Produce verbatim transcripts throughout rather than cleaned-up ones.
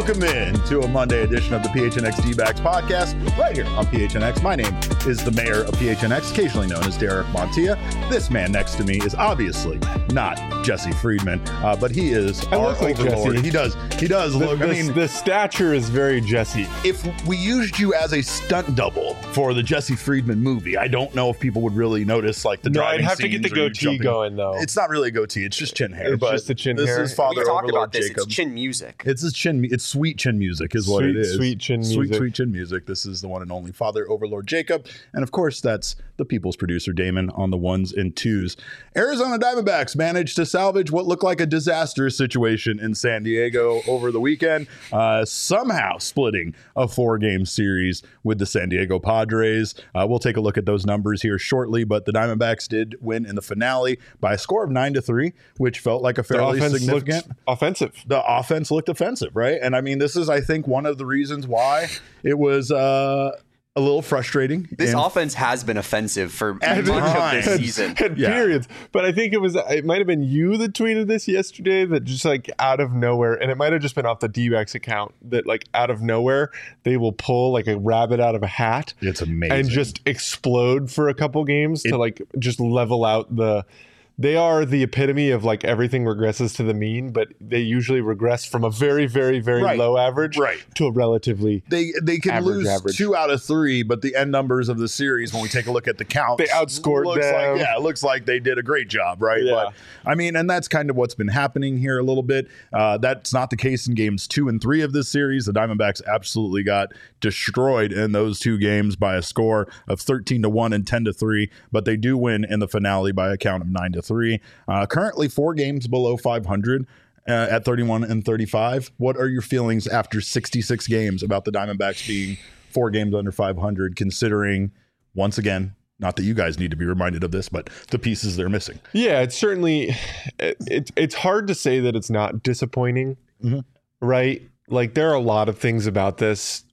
Welcome in to a Monday edition of the P H N X D-Backs podcast right here on P H N X. My name is the mayor of P H N X, occasionally known as Derek Montilla. This man next to me is obviously not Jesse Friedman, uh, but he is I our look like overlord. Jesse. He does. He does The, look. the, I mean, the stature is very Jesse. if we used you as a stunt double for the Jesse Friedman movie, I don't know if people would really notice like the No, driving I'd have to get the scenes or you goatee jumping. going though. It's not really a goatee; it's just chin hair. It's but just the chin this hair. is Father we talked Overlord about this. Jacob. It's chin music. It's his chin. It's sweet chin music, is what Sweet, it is. sweet chin sweet, music. Sweet chin music. This is the one and only Father Overlord Jacob, and of course, that's the people's producer Damon on the ones and twos. Arizona Diamondbacks managed to salvage what looked like a disastrous situation in San Diego over the weekend, uh, somehow splitting a four-game series with the San Diego Padres. Uh, we'll take a look at those numbers here shortly, but the Diamondbacks did win in the finale by a score of nine to three, which felt like a The fairly offense significant. looked offensive. The offense looked offensive, right? And I mean, this is, I think, one of the reasons why it was uh, a little frustrating. This And offense has been offensive for much At of this times. season. Had Yeah. periods. But I think it was, it might have been you that tweeted this yesterday that just like out of nowhere, and it might have just been off the D-backs account that like out of nowhere, they will pull like a rabbit out of a hat It's amazing. and just explode for a couple games It- to like just level out the. They are the epitome of like everything regresses to the mean, but they usually regress from a very, very, very Right. low average Right. to a relatively. They they can Average, lose average. two out of three, but the end numbers of the series, when we take a look at the count, They outscored looks them. Like, yeah, it looks like they did a great job, right? Yeah. But I mean, and that's kind of what's been happening here a little bit. Uh, that's not the case in games two and three of this series. The Diamondbacks absolutely got destroyed in those two games by a score of thirteen to one and ten to three, but they do win in the finale by a count of nine to three. Uh, currently four games below five hundred. Uh, at thirty-one and thirty-five, what are your feelings after sixty-six games about the Diamondbacks being four games under five hundred, considering, once again, not that you guys need to be reminded of this, but the pieces they're missing? Yeah, it's certainly it, it, it's hard to say that it's not disappointing, Mhm. right? Like there are a lot of things about this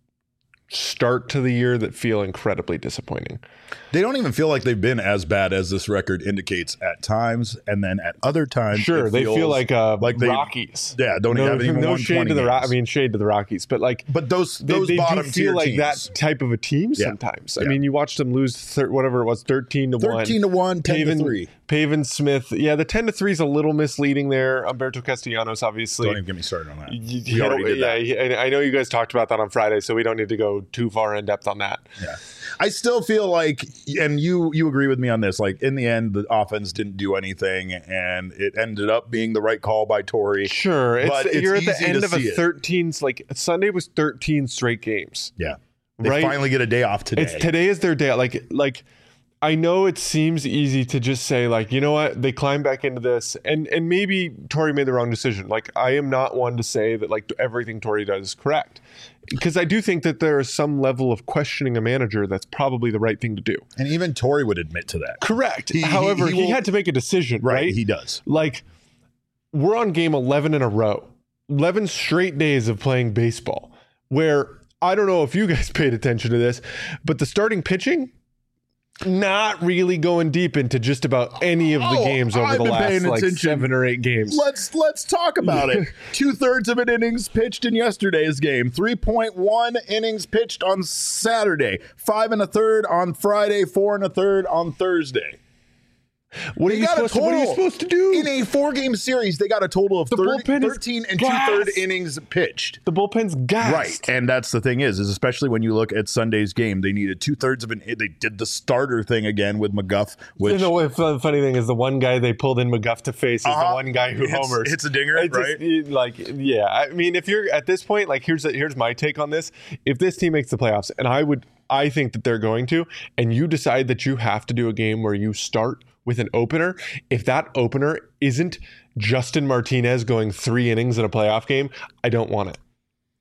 start to the year that feel incredibly disappointing. They don't even feel like they've been as bad as this record indicates at times, and then at other times, Sure, it they feels feel like uh, like they- Rockies. yeah, don't no, have even no won shade twenty to the Ro- I games. mean shade to the Rockies, but like But those they, those they do bottom feel tier like teams, that type of a team Yeah. sometimes. I Yeah. mean, you watch them lose thir- whatever it was, thirteen to one. thirteen to one, ten to Pavin, three. Pavin Smith, yeah, the ten to three is a little misleading there. Umberto Castellanos, obviously. Don't even get me started on that. You- We you already know, did yeah, that. he- and I know you guys talked about that on Friday, so we don't need to go too far in depth on that. Yeah. I still feel like, and you you agree with me on this, like in the end, the offense didn't do anything, and it ended up being the right call by Torrey. Sure, it's, But it's you're at the easy end to of a see it. thirteen. Like Sunday was thirteen straight games. Yeah. They Right? finally get a day off today. It's today is their day. Like like I know it seems easy to just say like, you know what, they climb back into this, and and maybe Torrey made the wrong decision. Like I am not one to say that like everything Torrey does is correct, because I do think that there is some level of questioning a manager that's probably the right thing to do. And even Torrey would admit to that. Correct. He- he- However, he he, will- had to make a decision, Right. right? He does. Like we're on game eleven in a row, eleven straight days of playing baseball, where I don't know if you guys paid attention to this, but the starting pitching, not really going deep into just about any of the Oh, games over I've the been last paying like attention. seven or eight games. Let's let's talk about it. Two thirds of an innings pitched in yesterday's game. three point one innings pitched on Saturday. Five and a third on Friday. Four and a third on Thursday. What are, They you got a supposed to, what are you total. supposed to do? In a four-game series, they got a total of The thirty, bullpen is thirteen and gassed. two-third innings pitched. the bullpen's gassed. Right, and that's the thing is, is especially when you look at Sunday's game, they needed two thirds of an. They did the starter thing again with McGuff, which You know, what the funny thing is, the one guy they pulled in McGuff to face is Uh-huh. the one guy who hits, homers. hits a dinger, It's right? just, you- like, yeah. I mean, if you're at this point, like, here's here's my take on this. If this team makes the playoffs, and I would, I think that they're going to, and you decide that you have to do a game where you start with an opener, if that opener isn't Justin Martinez going three innings in a playoff game, I don't want it.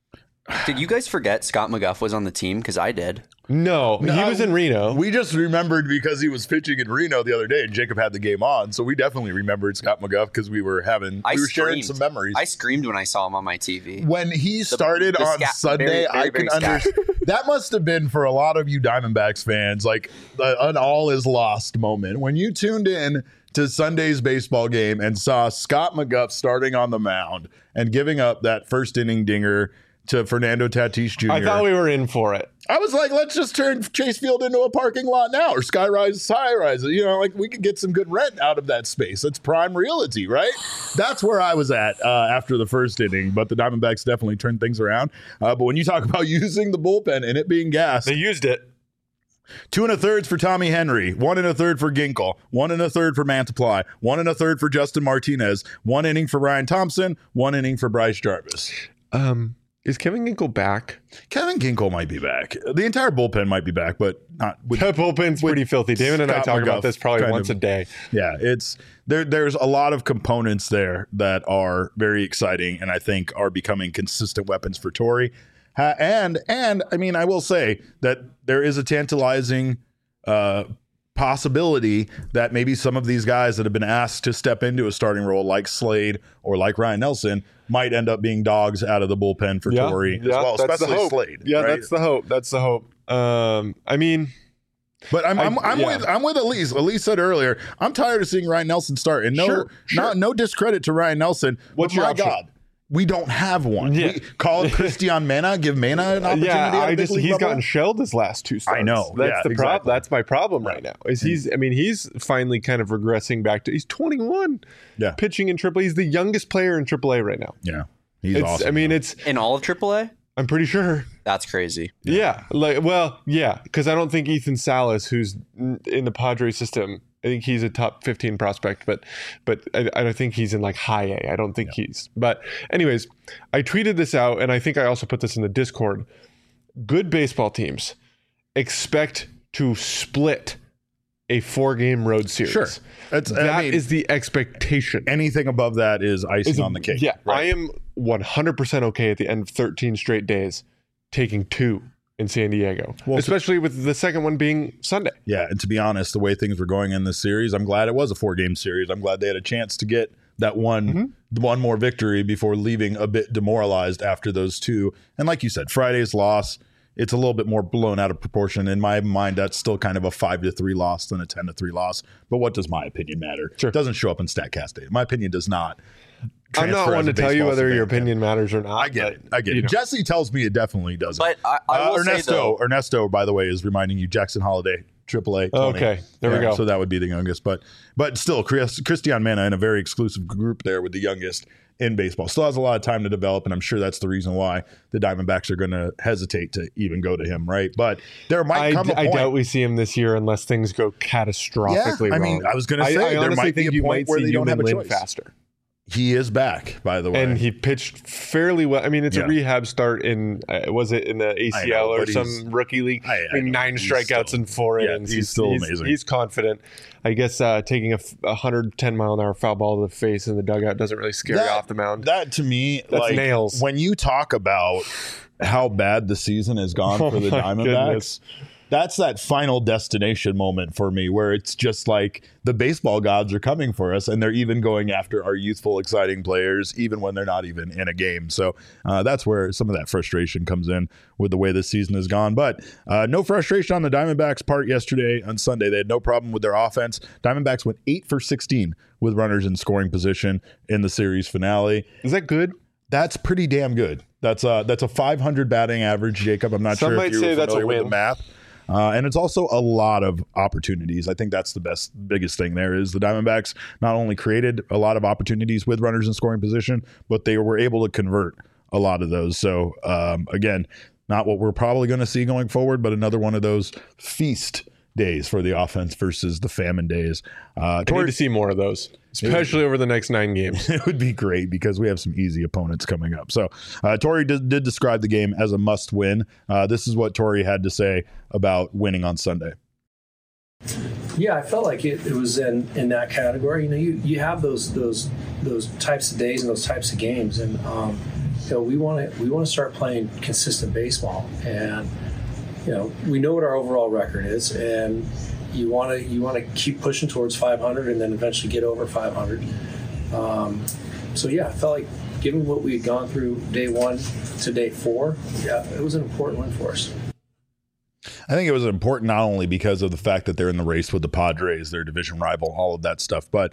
Did you guys forget Scott McGuff was on the team? Because I did. No, No, he was in Reno. We just remembered because he was pitching in Reno the other day, and Jacob had the game on, so we definitely remembered Scott McGuff because we were having I we were sharing screamed. some memories. I screamed when I saw him on my T V. when he started the on scat- Sunday, very, very, I very can understand. That must have been for a lot of you Diamondbacks fans, like the, an all is lost moment when you tuned in to Sunday's baseball game and saw Scott McGuff starting on the mound and giving up that first inning dinger to Fernando Tatis Junior I thought we were in for it. I was like, let's just turn Chase Field into a parking lot now, or Skyrise, Skyrise. You know, like we could get some good rent out of that space. That's prime realty, right? That's where I was at uh, after the first inning. But the Diamondbacks definitely turned things around. Uh, but when you talk about using the bullpen and it being gas, They used it. two and a thirds for Tommy Henry, one and a third for Ginkle, one and a third for Mantiply, one and a third for Justin Martinez, one inning for Ryan Thompson, one inning for Bryce Jarvis. Um, is Kevin Ginkle back? Kevin Ginkle might be back. The entire bullpen might be back, but not with That bullpen's pretty filthy. David and I Scott talk about McGough this probably kind once of- a day. Yeah, it's there. There's a lot of components there that are very exciting, and I think are becoming consistent weapons for Torrey. Uh, and and I mean, I will say that there is a tantalizing uh, possibility that maybe some of these guys that have been asked to step into a starting role, like Slade or like Ryan Nelson, might end up being dogs out of the bullpen for Torrey as well, that's the especially hope. Slade. Yeah, right? that's the hope. That's the hope. Um, I mean, But I'm I'm, I- I'm yeah. with I'm with Elise. Elise said earlier, I'm tired of seeing Ryan Nelson start. And no, Sure, sure. not no discredit to Ryan Nelson. What's but your my option? God, we don't have one. Yeah. We call it Christian Mena, give Mena an opportunity. yeah, at a I big just league he's level. gotten shelled his last two starts. I know. That's Yeah, the problem. exactly. That's my problem right now. Is he's? I mean, he's finally kind of regressing back to. He's twenty-one. Yeah. Pitching in triple A. He's the youngest player in triple A right now. Yeah, he's It's, awesome. I mean, it's. In all of triple A? I'm pretty sure. That's crazy. Yeah. Like, well, yeah, because I don't think Ethan Salas, who's n- in the Padres system, I think he's a top fifteen prospect, but but I, I don't think he's in like high A. I don't think he's. But anyways, I tweeted this out, and I think I also put this in the Discord. Good baseball teams expect to split a four-game road series. Sure. That's That I mean, is the expectation. anything above that is icing Is a- on the cake. Yeah, right? I am one hundred percent okay at the end of thirteen straight days taking two in San Diego, Well, especially with the second one being Sunday. Yeah, and to be honest, the way things were going in this series, I'm glad it was a four-game series. I'm glad they had a chance to get that one Mm-hmm. the one more victory before leaving a bit demoralized after those two. And like you said, Friday's loss, it's a little bit more blown out of proportion. In my mind, that's still kind of a five to three loss than a ten to three loss. But what does my opinion matter? Sure. It doesn't show up in StatCast data. My opinion does not. I'm not transfer one as to a tell you baseball whether your fan. opinion matters or not. I get but, it. I get you it. know. Jesse tells me it definitely doesn't. But I, I Uh, will say, Ernesto, though, Ernesto, by the way, is reminding you Jackson Holiday, triple A. Tony. Okay, there we Yeah, go. So that would be the youngest, but but still, Chris, Christian Mena in a very exclusive group there with the youngest in baseball. Still has a lot of time to develop, and I'm sure that's the reason why the Diamondbacks are going to hesitate to even go to him, right? But there might I, come a I point. doubt we see him this year unless things go catastrophically Yeah, I mean, wrong. I was gonna say, I, there honestly might be think a you point might where see they don't have a Newman Lin choice. faster. He is back, by the way. And he pitched fairly well. I mean, it's Yeah. a rehab start in, uh, was it in the A C L know, or but some he's- rookie league? I- I I, mean, know. nine He's strikeouts still- in four yeah, innings. he's still amazing. He's confident. I guess uh, taking a, f- a one hundred ten mile an hour foul ball to the face in the dugout doesn't really scare you That- off the mound. That to me, That's like nails. when you talk about how bad the season has gone Oh for the my Diamondbacks, goodness. that's that final destination moment for me where it's just like the baseball gods are coming for us and they're even going after our youthful, exciting players, even when they're not even in a game. So uh, that's where some of that frustration comes in with the way this season has gone. But uh, no frustration on the Diamondbacks' part yesterday on Sunday. They had no problem with their offense. Diamondbacks went eight for sixteen with runners in scoring position in the series finale. Is that good? That's pretty damn good. That's a that's a five hundred batting average, Jacob. I'm not Some sure might if you're say that's a familiar with the win. math. Uh, and it's also a lot of opportunities. I think that's the best, biggest thing there is the Diamondbacks not only created a lot of opportunities with runners in scoring position, but they were able to convert a lot of those. So um, again, not what we're probably going to see going forward, but another one of those feast days for the offense versus the famine days. Uh, I need toward- to see more of those, especially over the next nine games. it would be great because we have some easy opponents coming up. So, uh, Torrey did, did describe the game as a must win. Uh, this is what Torrey had to say about winning on Sunday. Yeah, I felt like it, it was in, in that category. You know, you, you have those those those types of days and those types of games, and um, you know, we want to we want to start playing consistent baseball, and you know, we know what our overall record is, and you want to you want to keep pushing towards five hundred, and then eventually get over five hundred. Um, so yeah, I felt like given what we had gone through day one to day four, yeah, it was an important win for us. I think it was important not only because of the fact that they're in the race with the Padres, their division rival, all of that stuff, but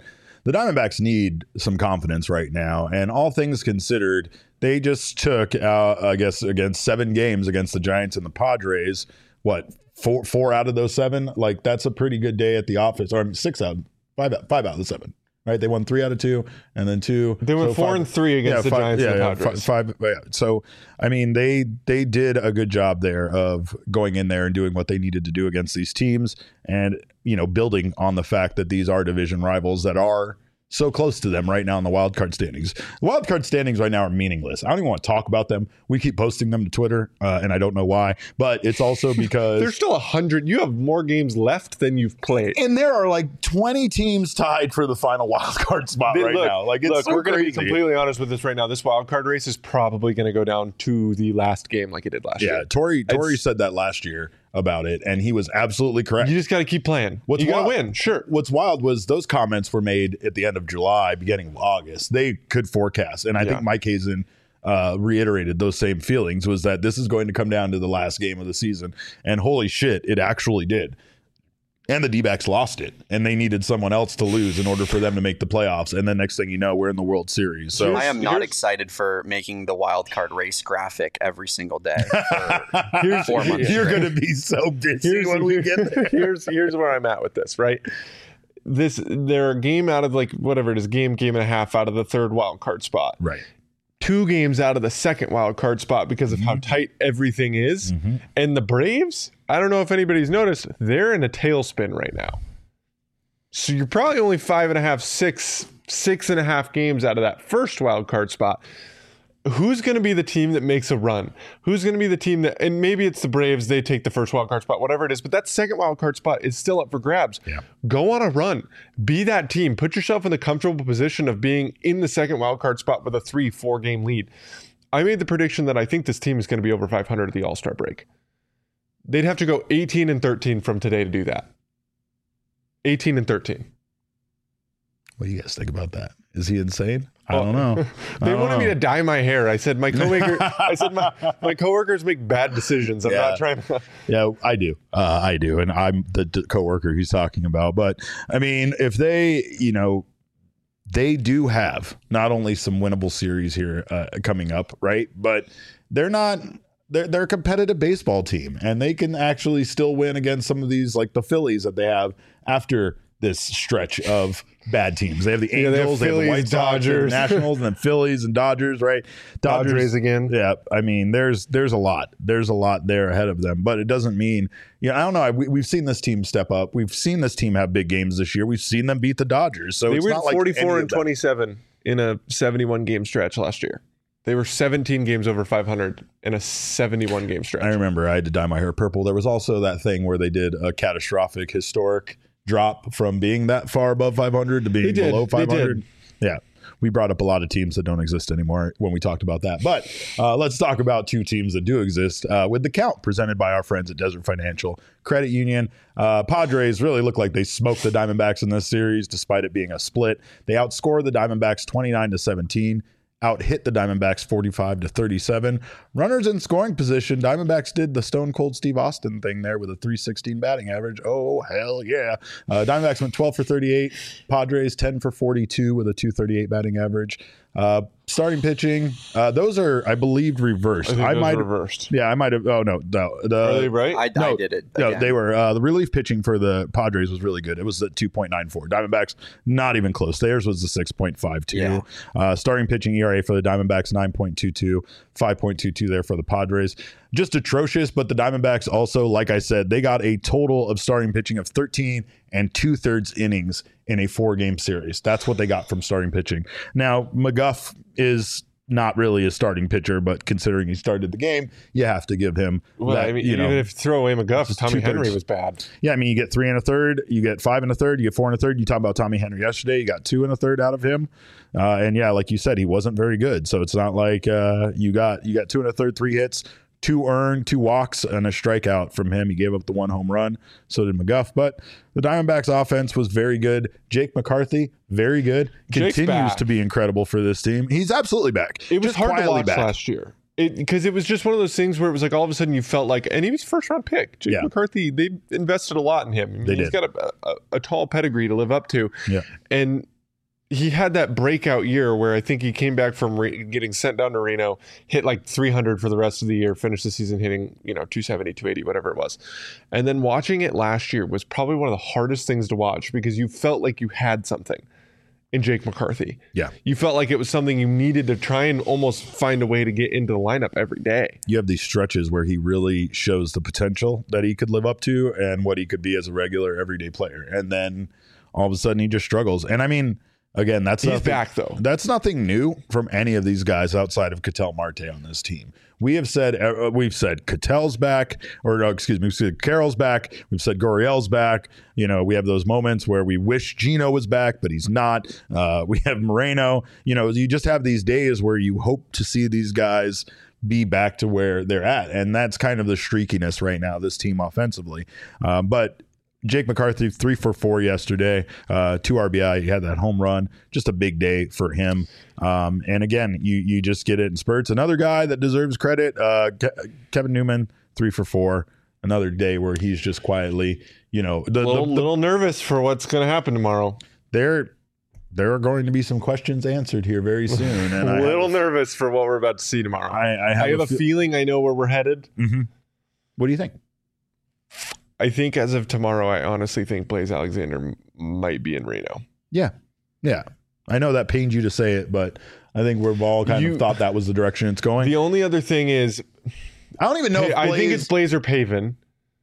the Diamondbacks need some confidence right now. And all things considered, they just took, uh, I guess, against seven games against the Giants and the Padres. What, four four out of those seven? Like, that's a pretty good day at the office. Or I mean, six out, five out, five out of the seven. Right, they won three out of two, and then two. They went so four five, and three against yeah, the five, Giants yeah, and the yeah, Padres. Five, five, yeah. So, I mean, they they did a good job there of going in there and doing what they needed to do against these teams, and you know, building on the fact that these are division rivals that are so close to them right now in the wild card standings. The wild card standings right now are meaningless. I don't even want to talk about them. We keep posting them to Twitter, uh, and I don't know why. But it's also because There's still a hundred. You have more games left than you've played. and there are like twenty teams tied for the final wild card spot They- right look, now. Like, it's look, so we're going to be crazy. completely honest with this right now. This wild card race is probably going to go down to the last game, like it did last Yeah, year. Tori Tori It's- said that last year about it, and he was absolutely correct. You just got to keep playing. What's you got to wild- win, sure. What's wild was those comments were made at the end of July, beginning of August. They could forecast, and I Yeah. think Mike Hazen uh, reiterated those same feelings, was that this is going to come down to the last game of the season. And holy shit, it actually did. And the D-backs lost it, and they needed someone else to lose in order for them to make the playoffs. And then next thing you know, we're in the World Series. So I am not here's- excited for making the wild card race graphic every single day for Here's, four months. you're straight. going to be so busy here's, when we get there. here's here's where I'm at with this, right? This they're a game out of like whatever it is, game, game and a half out of the third wild card spot. Right. Two games out of the second wild card spot because of how tight everything is. And the Braves, I don't know if anybody's noticed, they're in a tailspin right now. So you're probably only five and a half, six, six and a half games out of that first wild card spot. Who's going to be the team that makes a run? Who's going to be the team that, and maybe it's the Braves, they take the first wild card spot, whatever it is, but that second wild card spot is still up for grabs. Yeah. Go on a run. Be that team. Put yourself in the comfortable position of being in the second wild card spot with a three, four game lead. I made the prediction that I think this team is going to be over five hundred at the All-Star break. They'd have to go eighteen and thirteen from today to do that. eighteen and thirteen. What do you guys think about that? Is he insane? I Well, don't know. I They don't wanted me know. to dye my hair. I said my coworker. I said my, my coworkers make bad decisions. I'm Yeah. not trying to. Yeah, I do. Uh, I do, and I'm the d- coworker he's talking about. But I mean, if they, you know, they do have not only some winnable series here uh, coming up, right? But they're not. They're they're a competitive baseball team, and they can actually still win against some of these, like the Phillies that they have after this stretch of bad teams. They have the Yeah, they have Angels, they have, Phillies, the White Sox, and Dodgers. Nationals, and then Phillies and Dodgers, right? Padres again. Yeah, I mean, there's there's a lot. There's a lot there ahead of them, but it doesn't mean, you know, I don't know. We, we've seen this team step up. We've seen this team have big games this year. We've seen them beat the Dodgers. So They it's were not like forty-four any and of that- twenty-seven in a seventy-one game stretch last year. They were seventeen games over five hundred in a seventy-one game stretch. I remember I had to dye my hair purple. There was also that thing where they did a catastrophic, historic drop from being that far above five hundred to being They did. below They five hundred. did. Yeah. We brought up a lot of teams that don't exist anymore when we talked about that. But uh, let's talk about two teams that do exist uh, with the count presented by our friends at Desert Financial Credit Union. Uh, Padres really look like they smoked the Diamondbacks in this series, despite it being a split. They outscored the Diamondbacks twenty-nine to seventeen. Out hit the Diamondbacks forty-five to thirty-seven. Runners in scoring position. Diamondbacks did the Stone Cold Steve Austin thing there with a three sixteen batting average. Oh, hell yeah. Uh, Diamondbacks went twelve for thirty-eight. Padres ten for forty-two with a two thirty-eight batting average. Uh, starting pitching, uh, those are, I believe, reversed. I think those might reversed. Yeah, I might have. Oh, no. no the, Are they right? I, No, I did it. No, again. they were uh, the relief pitching for the Padres was really good. It was at two point nine four. Diamondbacks not even close. Theirs was the six point five two. Yeah. Uh, starting pitching E R A for the Diamondbacks nine point two two, five point two two there for the Padres. Just atrocious, but the Diamondbacks also, like I said, they got a total of starting pitching of thirteen and two thirds innings in a four game series. That's what they got from starting pitching. Now, McGuff is not really a starting pitcher, but considering he started the game, you have to give him Well, that, I mean, you even know, if you throw away McGuff, just Tommy two-thirds. Henry was bad. yeah, I mean, you get three and a third, you get five and a third, you get four and a third. You talk about Tommy Henry yesterday, you got two and a third out of him, uh, and yeah, like you said, he wasn't very good. So it's not like uh, you got you got two and a third, three hits, two earned, two walks, and a strikeout from him. He gave up the one home run. So did McGuff. But the Diamondbacks' offense was very good. Jake McCarthy, very good. Jake's Continues back. to be incredible for this team. He's absolutely back. It was Just hard to quietly watch back. last year. Because it, it was just one of those things where it was like all of a sudden you felt like, and he was first round pick. Jake Yeah. McCarthy, they invested a lot in him. I mean, They he's did. got a, a, a tall pedigree to live up to. Yeah. And he had that breakout year where I think he came back from re- getting sent down to Reno, hit like three hundred for the rest of the year, finished the season hitting, you know, two seventy, two eighty, whatever it was. And then watching it last year was probably one of the hardest things to watch because you felt like you had something in Jake McCarthy. Yeah. You felt like it was something you needed to try and almost find a way to get into the lineup every day. You have these stretches where he really shows the potential that he could live up to and what he could be as a regular everyday player. And then all of a sudden he just struggles. And I mean, again, that's He's nothing, back though. That's nothing new from any of these guys outside of Ketel Marte on this team. We have said uh, we've said Ketel's back, or uh, excuse me, we've said Carroll's back. We've said Gurriel's back. You know, we have those moments where we wish Gino was back, but he's not. Uh, we have Moreno. You know, you just have these days where you hope to see these guys be back to where they're at, and that's kind of the streakiness right now. This team offensively, uh, but. Jake McCarthy, three for four yesterday, uh, two R B I. He had that home run. Just a big day for him. Um, and again, you you just get it in spurts. Another guy that deserves credit, uh, Ke- Kevin Newman, three for four. Another day where he's just quietly, you know, the, A little, the, the, little nervous for what's going to happen tomorrow. there there are going to be some questions answered here very soon. And A I little have, nervous for what we're about to see tomorrow. I, I have, I have a, a fe- feeling I know where we're headed. mm-hmm. What do you think? I think as of tomorrow, I honestly think Blaze Alexander m- might be in Reno. Yeah, yeah. I know that pains you to say it, but I think we've all kind You- of thought that was the direction it's going. The only other thing is, I don't even know. hey, if I think Blaze- it's Blaze or Paven.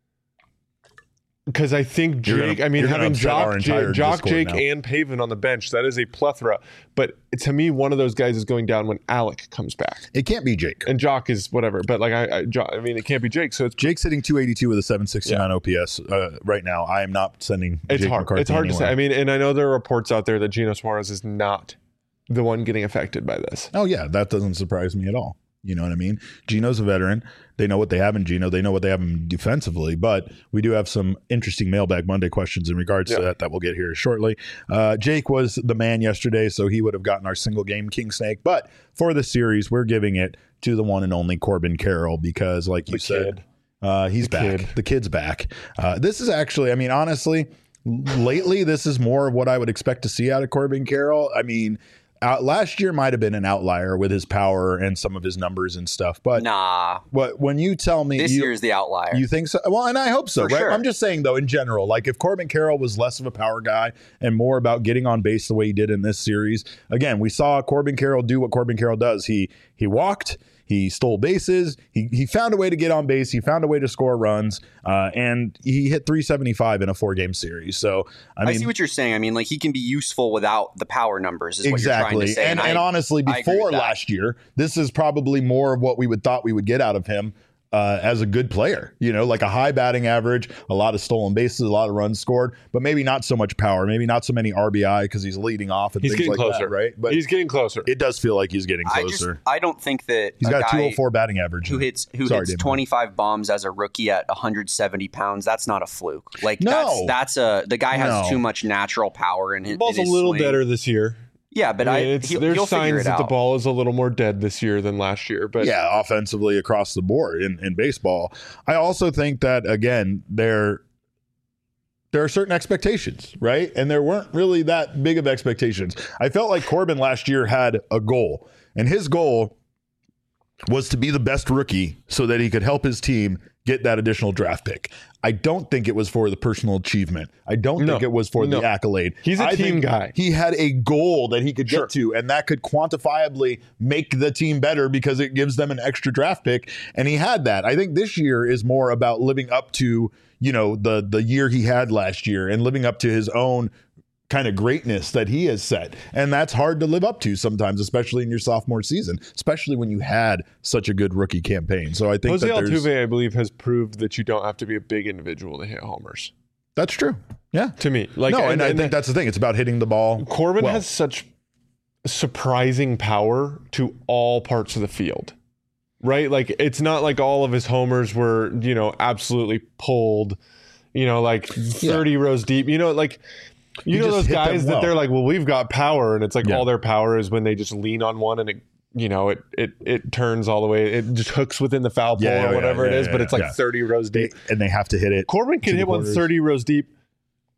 Because I think You're Jake, gonna- I mean, you're gonna having upset our Jock, entire Jake, Jock Discord Jake, now. and Paven on the bench, that is a plethora. But to me, one of those guys is going down when Alec comes back. It can't be Jake. And Jock is whatever. But like, I, I, Jo- I mean, it can't be Jake. So it's Jake's hitting two eighty-two with a seven sixty-nine O P S uh, right now. I am not sending It's Jake hard. McCarthy It's hard to anywhere. say. I mean, and I know there are reports out there that Gino Suarez is not the one getting affected by this. Oh, yeah. That doesn't surprise me at all. You know what I mean? Gino's a veteran. They know what they have in Gino. They know what they have in defensively. But we do have some interesting Mailbag Monday questions in regards Yeah. to that that we'll get here shortly. Uh, Jake was the man yesterday, so he would have gotten our single game King Snake. But for the series, we're giving it to the one and only Corbin Carroll because, like you The said, kid. uh, he's The back. kid. The kid's back. Uh, this is actually, I mean, honestly, lately, this is more of what I would expect to see out of Corbin Carroll. I mean, Uh, last year might have been an outlier with his power and some of his numbers and stuff. But Nah, what when you tell me this you, year's the outlier. you think so? Well, and I hope so, For right? sure. I'm just saying, though, in general, like if Corbin Carroll was less of a power guy and more about getting on base the way he did in this series, again, we saw Corbin Carroll do what Corbin Carroll does. He he walked. He stole bases. He he found a way to get on base. He found a way to score runs, uh, and he hit three seventy-five in a four-game series. So I I, mean, see what you're saying. I mean, like he can be useful without the power numbers. Is what you're trying exactly. to say. And, I- and honestly, I agree before with that. last year, this is probably more of what we would thought we would get out of him. Uh, as a good player, you know, like a high batting average, a lot of stolen bases, a lot of runs scored, but maybe not so much power, maybe not so many R B I because he's leading off and He's things getting like closer, that, right? But he's getting closer. it does feel like he's getting I just closer. I don't think that He's a got a guy two oh four batting average. who hits who Sorry, hits Damon. twenty-five bombs as a rookie at one hundred seventy pounds. That's not a fluke. Like No. that's that's a the guy has No. too much natural power in his. The ball's in a his little swing. better this year. Yeah, but I I, mean, it's, he'll, there's he'll figure signs it that the out. ball is a little more dead this year than last year. But yeah, offensively across the board in, in baseball. I also think that, again, there there are certain expectations, right? And there weren't really that big of expectations. I felt like Corbin last year had a goal, and his goal was to be the best rookie so that he could help his team get that additional draft pick. I don't think it was for the personal achievement. I don't No. think it was for No. the accolade. He's a I team think guy. He had a goal that he could Sure. get to, and that could quantifiably make the team better because it gives them an extra draft pick. And he had that. I think this year is more about living up to, you know, the the year he had last year and living up to his own kind of greatness that he has set. And that's hard to live up to sometimes, especially in your sophomore season, especially when you had such a good rookie campaign. So I think Jose that there's, Altuve, I believe, has proved that you don't have to be a big individual to hit homers. that's true. Yeah. To me, like, no, and, I think that's the thing. It's about hitting the ball. Corbin well. has such surprising power to all parts of the field, right? Like, it's not like all of his homers were, you know, absolutely pulled, you know, like thirty rows deep. You know, like, you He know just those hit them guys that well. they're like, well, we've got power, and it's like Yeah. all their power is when they just lean on one and it, you know, it it it turns all the way, it just hooks within the foul pole Yeah, or yeah, whatever yeah, it is, yeah, but yeah, it's like yeah. thirty rows deep. And they have to hit it. Corbin to can the hit one corners. thirty rows deep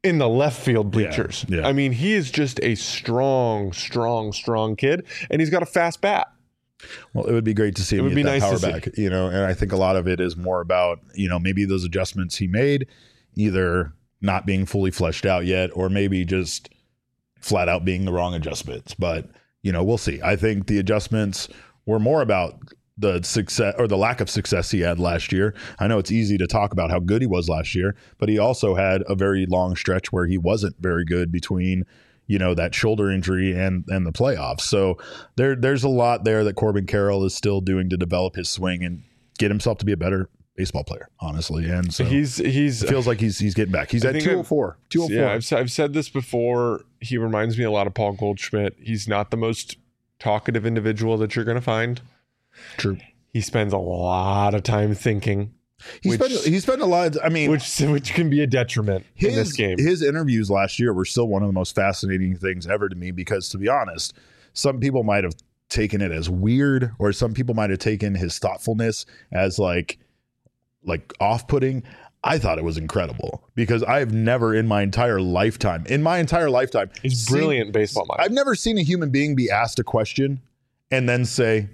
in the left field bleachers. Yeah, yeah. I mean, he is just a strong, strong, strong kid, and he's got a fast bat. Well, it would be great to see him would get be that nice power to see. back, you know, and I think a lot of it is more about, you know, maybe those adjustments he made either not being fully fleshed out yet, or maybe just flat out being the wrong adjustments. But, you know, we'll see. I think the adjustments were more about the success or the lack of success he had last year. I know it's easy to talk about how good he was last year, but he also had a very long stretch where he wasn't very good between, you know, that shoulder injury and and the playoffs. So there there's a lot there that Corbin Carroll is still doing to develop his swing and get himself to be a better baseball player, honestly. And so he's he's it feels like he's he's getting back. He's I at think two oh four. two oh four. Yeah, I've, I've said this before. He reminds me a lot of Paul Goldschmidt. He's not the most talkative individual that you're going to find. True. He spends a lot of time thinking. He which, spent he spent a lot. Of, I mean, which which can be a detriment his, in this game. His interviews last year were still one of the most fascinating things ever to me because, to be honest, some people might have taken it as weird, or some people might have taken his thoughtfulness as like like off-putting. I thought it was incredible because I've never in my entire lifetime, in my entire lifetime, He's seen, brilliant baseball mind. I've never seen a human being be asked a question and then say,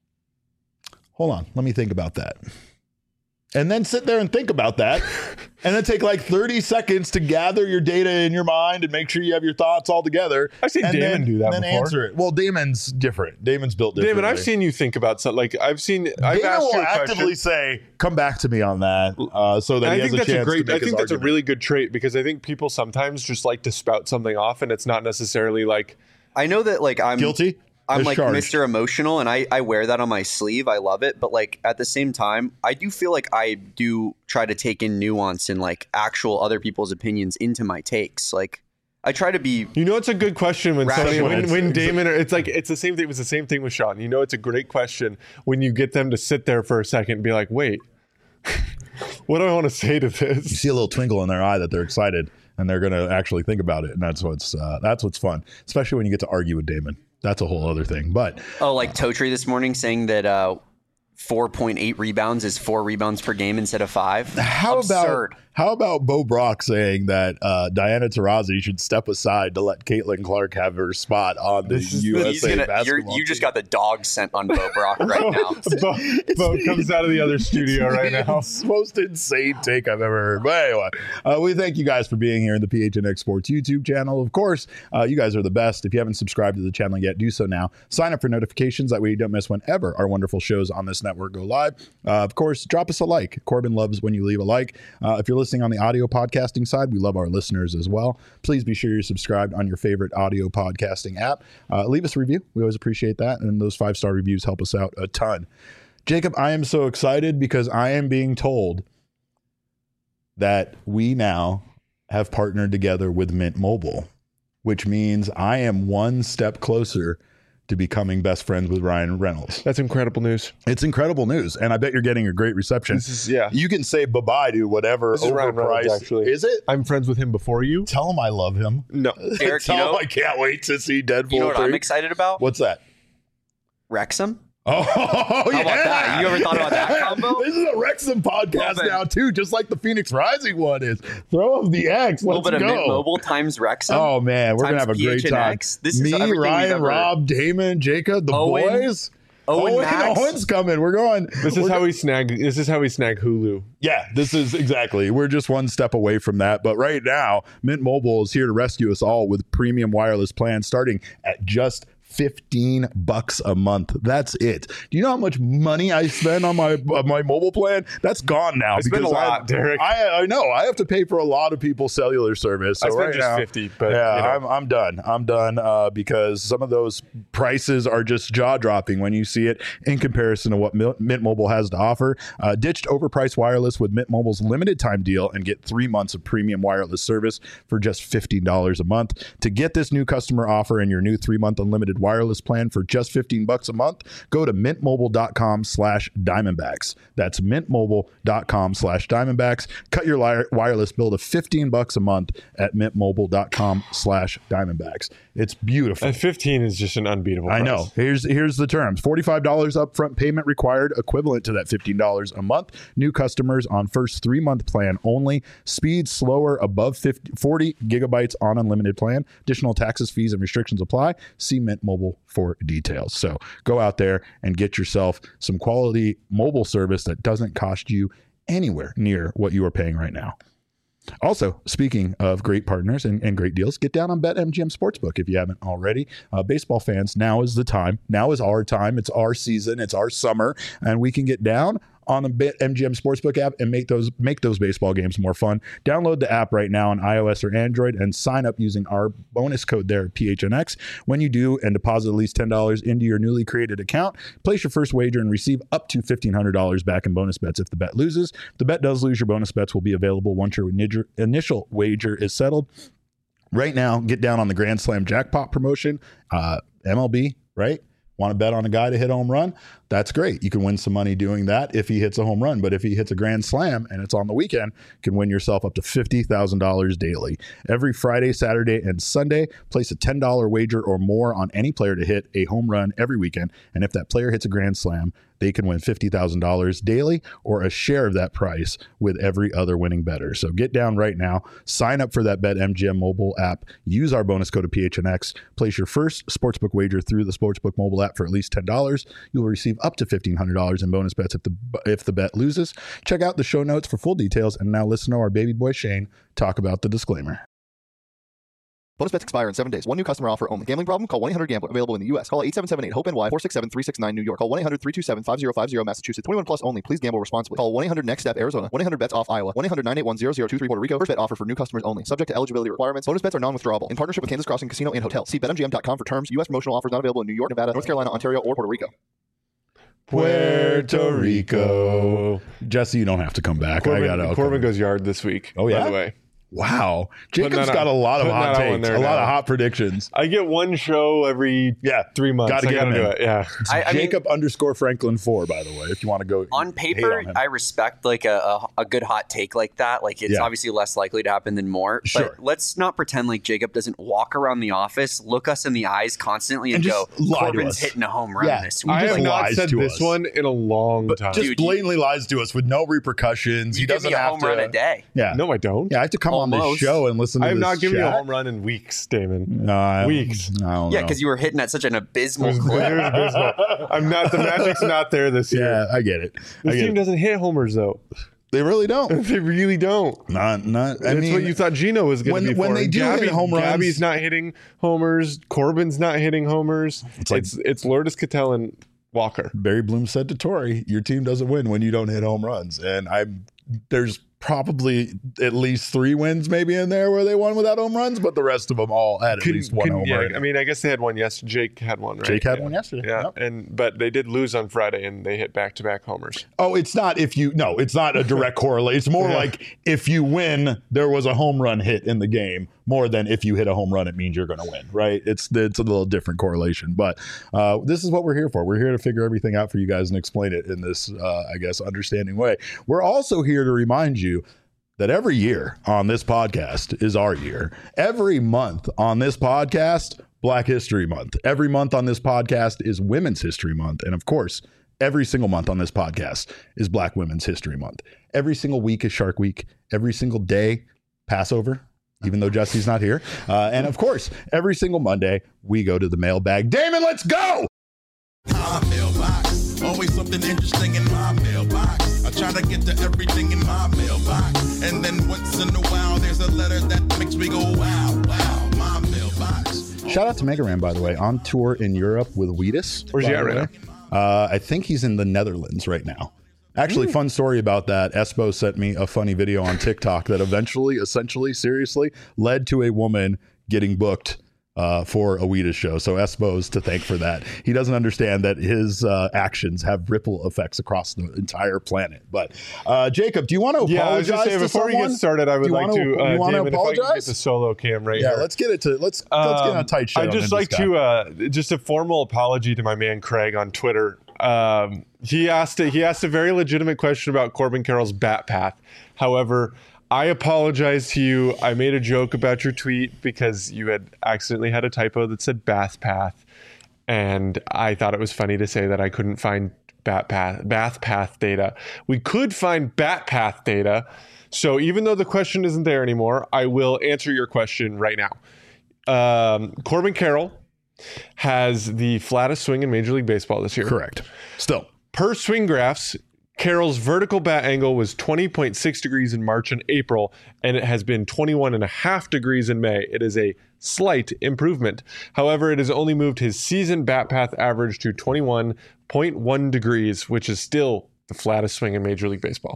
hold on, let me think about that. And then sit there and think about that. And then take like thirty seconds to gather your data in your mind and make sure you have your thoughts all together. I've seen and Damon then, do that and then before. answer it. Well, Damon's different. Damon's built differently. Damon, I've seen you think about something. Like I've seen, I've Damon asked will you a actively question. say, come back to me on that. Uh, so that And he I has think a that's chance a great. to I make think his that's a argument. really good trait because I think people sometimes just like to spout something off, and it's not necessarily like I know that like I'm Guilty? I'm like Discharged. Mister Emotional, and I, I wear that on my sleeve. I love it. But like at the same time, I do feel like I do try to take in nuance and like actual other people's opinions into my takes. Like I try to be. You know, it's a good question when somebody, Rational. when, when Damon, it's like, it's the same thing. It was the same thing with Sean. You know, it's a great question when you get them to sit there for a second and be like, wait, what do I want to say to You this? see a little twinkle in their eye that they're excited and they're going to actually think about it. And that's what's, uh, that's what's fun, especially when you get to argue with Damon. That's a whole other thing. But Oh, like Totri this morning saying that uh, four point eight rebounds is four rebounds per game instead of five. how Absurd. about how about Bo Brock saying that uh, Diana Taurasi should step aside to let Caitlin Clark have her spot on the This is- U S A He's gonna, you're, basketball you just team? got the dog scent on Bo Brock right now. Bo, Bo comes out of the other studio right now. It's the most insane take I've ever heard. But anyway, uh, we thank you guys for being here in the P H N X Sports YouTube channel. Of course, uh, you guys are the best. If you haven't subscribed to the channel yet, do so now. Sign up for notifications. That way you don't miss whenever our wonderful shows on this network go live. Uh, of course, drop us a like. Corbin loves when you leave a like. Uh, if you're listening on the audio podcasting side, we love our listeners as well. Please be sure you're subscribed on your favorite audio podcasting app. Uh, leave us a review. We always appreciate that. And those five-star reviews help us out a ton. Jacob, I am so excited because I am being told that we now have partnered together with Mint Mobile, which means I am one step closer to becoming best friends with Ryan Reynolds. That's incredible news. It's incredible news, and I bet you're getting a great reception. This is, yeah. You can say bye-bye to whatever This is Ryan Reynolds, overpriced. actually. Is it? I'm friends with him before you. Tell him I love him. No. Eric, Tell you know, him I can't wait to see Deadpool you know what I'm three. excited about? What's that? Wrexham. Oh, How yeah. about that? You ever thought about that combo? This is a Wrexham podcast Love it. now, too, just like the Phoenix Rising one is. Throw up the X. A little Let's bit of Mint go. Mobile times Wrexham. Oh, man. We're going to times have a great P H N time. X. This is Me, everything we've Ryan, ever- Rob, Damon, Jacob, the Owen. boys. Owen Max. Owen's coming. We're going. This is we're how we snag. This is how we snag Hulu. Yeah, this is exactly. We're just one step away from that. But right now, Mint Mobile is here to rescue us all with premium wireless plans starting at just fifteen bucks a month. That's it. Do you know how much money I spend on my on my mobile plan? That's gone now. I spend a because lot, I, Derek. I, I know. I have to pay for a lot of people's cellular service. So I spent right just now, fifty, but yeah, you know. I'm I'm done. I'm done uh, because some of those prices are just jaw dropping when you see it in comparison to what Mil- Mint Mobile has to offer. Uh, ditched overpriced wireless with Mint Mobile's limited time deal and get three months of premium wireless service for just fifteen dollars a month. To get this new customer offer and your new three month unlimited wireless plan for just fifteen bucks a month. Go to mintmobile.com slash Diamondbacks. That's mintmobile.com slash Diamondbacks. Cut your li- wireless bill to fifteen bucks a month at mintmobile.com slash Diamondbacks. It's beautiful. And fifteen is just an unbeatable price. I know. Here's here's the terms. forty-five dollars upfront payment required, equivalent to that fifteen dollars a month. New customers on first three-month plan only. Speed slower above fifty, forty gigabytes on unlimited plan. Additional taxes, fees, and restrictions apply. See Mint Mobile for details. So go out there and get yourself some quality mobile service that doesn't cost you anywhere near what you are paying right now. Also, speaking of great partners and, and great deals, get down on BetMGM Sportsbook if you haven't already. Uh, baseball fans, now is the time. Now is our time. It's our season. It's our summer. And we can get down on the BetMGM Sportsbook app and make those make those baseball games more fun. Download the app right now on iOS or Android and sign up using our bonus code there, P H N X. When you do and deposit at least ten dollars into your newly created account, place your first wager and receive up to fifteen hundred dollars back in bonus bets if the bet loses. If the bet does lose, your bonus bets will be available once your initial wager is settled. Right now, get down on the Grand Slam jackpot promotion, uh, M L B, right? Want to bet on a guy to hit a home run? That's great. You can win some money doing that if he hits a home run. But if he hits a grand slam and it's on the weekend, you can win yourself up to fifty thousand dollars daily. Every Friday, Saturday, and Sunday, place a ten dollars wager or more on any player to hit a home run every weekend. And if that player hits a grand slam, they can win fifty thousand dollars daily or a share of that price with every other winning bettor. So get down right now. Sign up for that BetMGM mobile app. Use our bonus code of P H N X. Place your first sportsbook wager through the Sportsbook mobile app for at least ten dollars. You'll receive up to fifteen hundred dollars in bonus bets if the if the bet loses. Check out the show notes for full details. And now listen to our baby boy Shane talk about the disclaimer. Bonus bets expire in seven days. One new customer offer only. Gambling problem? Call one eight hundred gambler. Available in the U S. Call eight seven seven eight hope N Y four six seven three six nine New York. Call one eight hundred three two seven five zero five zero Massachusetts. twenty-one plus only. Please gamble responsibly. Call one eight hundred next step Arizona. one eight hundred bets off Iowa. one eight hundred nine eight one zero zero two three Puerto Rico. First bet offer for new customers only. Subject to eligibility requirements. Bonus bets are non-withdrawable. In partnership with Kansas Crossing Casino and Hotel. See bet M G M dot com for terms. U S promotional offers not available in New York, Nevada, North Carolina, Ontario, or Puerto Rico. Puerto Rico. Jesse, you don't have to come back. Corbin, I got Corbin goes yard this week. Oh, yeah? By the way. Wow. Jacob's that got out- a lot of putting hot that out takes, there a lot now. of hot predictions. I get one show every Yeah. three months. Gotta I get gotta him do in. it. Yeah. I, I mean, Jacob underscore Franklin four, by the way, if you want to go on hate paper, on him. I respect like a, a, a good hot take like that. Like it's Yeah. obviously less likely to happen than more. Sure. But let's not pretend like Jacob doesn't walk around the office, look us in the eyes constantly, and, And go, just lie to "Corbin's us." hitting a home run Yeah. this He week." I just have not lies said to this us. one in a long But time. just Dude, blatantly lies to us with no repercussions. You he give doesn't me a have home to. run a day. Yeah. no, I don't. Yeah, I have to come on this Almost. show and listen to I have this not given you a chat. home run in weeks, Damon. No, I- Weeks. I don't Yeah, know. because you were hitting at such an It abysmal was- clip. it was abysmal. I'm not. The magic's not there this year. Yeah, I get it. I This get team it. doesn't hit homers though. They really don't. They really don't. Not, not. I That's mean, what you thought Gino was going when- to be when for. they do Gabby, hit home runs- Gabby's not hitting homers. Corbin's not hitting homers. It's It's like- it's, it's Lourdes Cattell and Walker. Barry Bloom said to Torrey, your team doesn't win when you don't hit home runs. And I, there's probably at least three wins maybe in there where they won without home runs, but the rest of them all had at Couldn't- least one couldn't- home yeah, run. I mean, I guess they had one yesterday. Jake had one, right? Jake had Yeah. one yesterday. Yeah, Yep. and but they did lose on Friday, and they hit back-to-back homers. Oh, it's not if you, no, it's not a direct correlate. It's more Yeah. like if you win, there was a home run hit in the game, more than if you hit a home run, it means you're going to win, right? It's it's a little different correlation. But uh, this is what we're here for. We're here to figure everything out for you guys and explain it in this, uh, I guess, understanding way. We're also here to remind you that every year on this podcast is our year. Every month on this podcast, Black History Month. Every month on this podcast is Women's History Month. And of course, every single month on this podcast is Black Women's History Month. Every single week is Shark Week. Every single day, Passover, even though Jesse's not here. Uh, and of course, every single Monday, we go to the mailbag. Damon, let's go! My mailbox, always something interesting in my mailbox. I try to get to everything in my mailbox, and then once in a while there's a letter that makes me go wow, wow. My mailbox. Shout out to Mega Ran, by the way, on tour in Europe with Wheatus. Where's he by at the right way. Uh, I think he's in the Netherlands right now. Actually, fun story about that. Espo sent me a funny video on TikTok that eventually, essentially, seriously, led to a woman getting booked uh, for Awita's show. So Espo's to thank for that. He doesn't understand that his uh, actions have ripple effects across the entire planet. But uh, Jacob, do you want to apologize yeah, I was just saying, to before someone? we get started, I would like wanna, to, uh, you want to Damon, if I can get apologize? the solo cam right Yeah, here. let's get it to let's let's get on a tight show. I'd just like to uh, just a formal apology to my man Craig on Twitter. Um, he asked a, he asked a very legitimate question about Corbin Carroll's bat path. However, I apologize to you. I made a joke about your tweet because you had accidentally had a typo that said bath path, and I thought it was funny to say that I couldn't find bat path bath path data. We could find bat path data. So even though the question isn't there anymore, I will answer your question right now. Um, Corbin Carroll has the flattest swing in Major League Baseball this year. Correct. Still. Per swing graphs, Carroll's vertical bat angle was twenty point six degrees in March and April, and it has been twenty-one and a half degrees in May. It is a slight improvement. However, it has only moved his season bat path average to twenty-one point one degrees, which is still the flattest swing in Major League Baseball.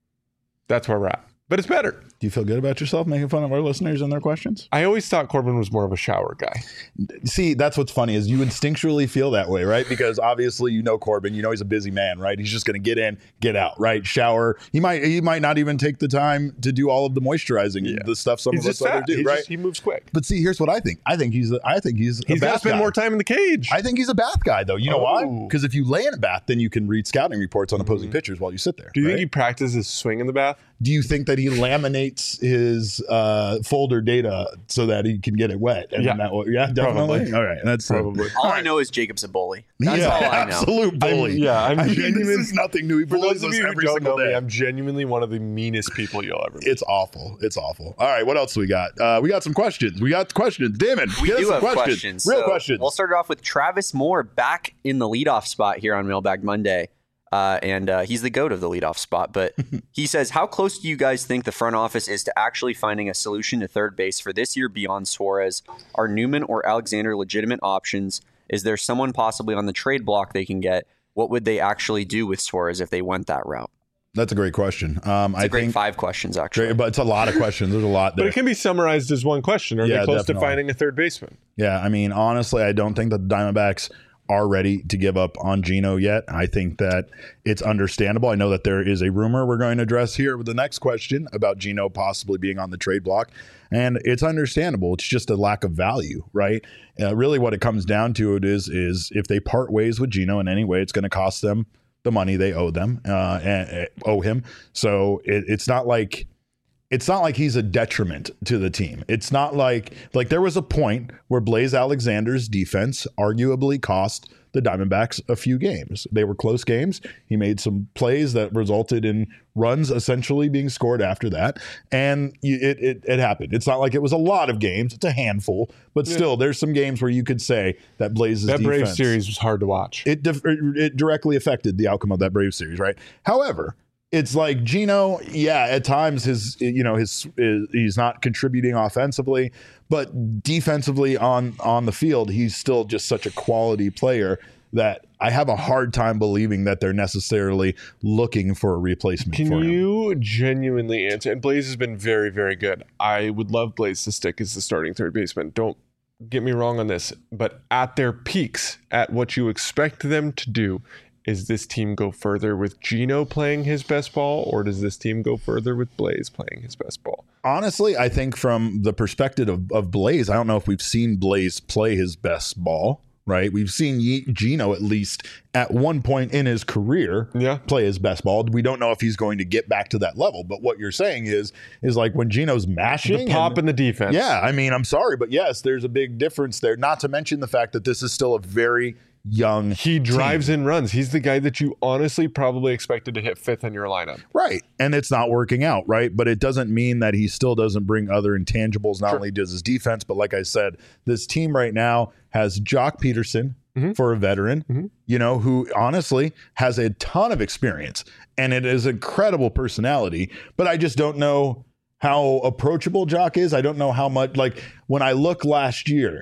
That's where we're at. But it's better. Do you feel good about yourself making fun of our listeners and their questions? I always thought Corbin was more of a shower guy. See, that's what's funny is you instinctually feel that way, right? Because obviously you know Corbin, you know he's a busy man, right? He's just going to get in, get out, right? Shower. He might he might not even take the time to do all of the moisturizing, Yeah. the stuff some He's of us just other fat. do, He right? just- he moves quick. But see, here's what I think. I think he's a, I think he's He's a got to bath spend guy. more time in the cage. I think he's a bath guy, though. You know Oh. why? Because if you lay in a bath, then you can read scouting reports on opposing pitchers while you sit there. Do you right? think he practices swing in the bath? Do you think that he laminates his uh, folder data so that he can get it wet? And Yeah. that will, yeah, definitely. Probably. All right, that's Probably. All I know is Jacob's a bully. He's That's an all I know. absolute bully. I'm- yeah, I'm I mean, genuine- this is nothing new. He For bullies those of us you who every don't single know me, day. I'm genuinely one of the meanest people you'll ever meet. It's awful. It's awful. All right, what else we got? Uh, we got some questions. We got questions. Damn it. We Get us do some have questions. questions. Real So questions. We'll start it off with Travis Moore back in the leadoff spot here on Mailbag Monday. Uh, and uh, he's the GOAT of the leadoff spot. But he says, how close do you guys think the front office is to actually finding a solution to third base for this year beyond Suarez? Are Newman or Alexander legitimate options? Is there someone possibly on the trade block they can get? What would they actually do with Suarez if they went that route? That's a great question. Um, It's I a great think, five questions, actually. great, but it's a lot of questions. There's a lot But there. it can be summarized as one question. Are Yeah, they close definitely. to finding a third baseman? Yeah, I mean, honestly, I don't think that the Diamondbacks are ready to give up on Geno yet. I think that it's understandable. I know that there is a rumor we're going to address here with the next question about Geno possibly being on the trade block, and it's understandable. It's just a lack of value, right? Uh, really, what it comes down to it is is if they part ways with Geno in any way, it's going to cost them the money they owe them uh, and, uh, owe him. So it, it's not like. It's not like he's a detriment to the team. It's not like like there was a point where Blaze Alexander's defense arguably cost the Diamondbacks a few games. They were close games. He made some plays that resulted in runs essentially being scored after that. And it it, it happened. It's not like it was a lot of games. It's a handful. But still, there's some games where you could say that Blaze's That defense. Braves series was hard to watch. It, dif- it directly affected the outcome of that Braves series, right? However, it's like Geno, yeah, at times his, you know, his, his he's not contributing offensively, but defensively on on the field, he's still just such a quality player that I have a hard time believing that they're necessarily looking for a replacement Can for him. you genuinely answer? And Blaze has been very, very good. I would love Blaze to stick as the starting third baseman. Don't get me wrong on this, but at their peaks, at what you expect them to do, is this team go further with Geno playing his best ball, or does this team go further with Blaze playing his best ball? Honestly, I think from the perspective of, of Blaze, I don't know if we've seen Blaze play his best ball, right? We've seen Ye- Geno at least at one point in his career Yeah. play his best ball. We don't know if he's going to get back to that level, but what you're saying is is like when Geno's mashing The pop and- and the defense. yeah, I mean, I'm sorry, but yes, there's a big difference there. Not to mention the fact that this is still a very young He drives team. in runs. He's the guy that you honestly probably expected to hit fifth in your lineup. Right. And it's not working out, right? But it doesn't mean that he still doesn't bring other intangibles. Not Sure. only does his defense, but like I said, this team right now has Jock Peterson Mm-hmm. for a veteran, you know, who honestly has a ton of experience and it is incredible personality. But I just don't know how approachable Jock is. I don't know how much, like when I look last year,